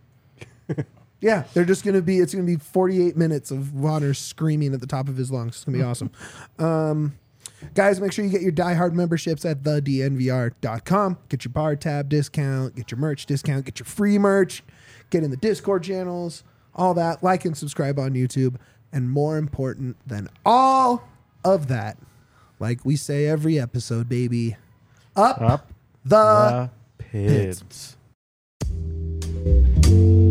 Yeah, they're just going to be, it's going to be 48 minutes of Wanners screaming at the top of his lungs. It's going to be awesome. Guys, make sure you get your diehard memberships at thednvr.com. Get your bar tab discount, get your merch discount, get your free merch, get in the Discord channels, all that. Like and subscribe on YouTube. And more important than all of that, like we say every episode, baby. Up, Up the the Pids.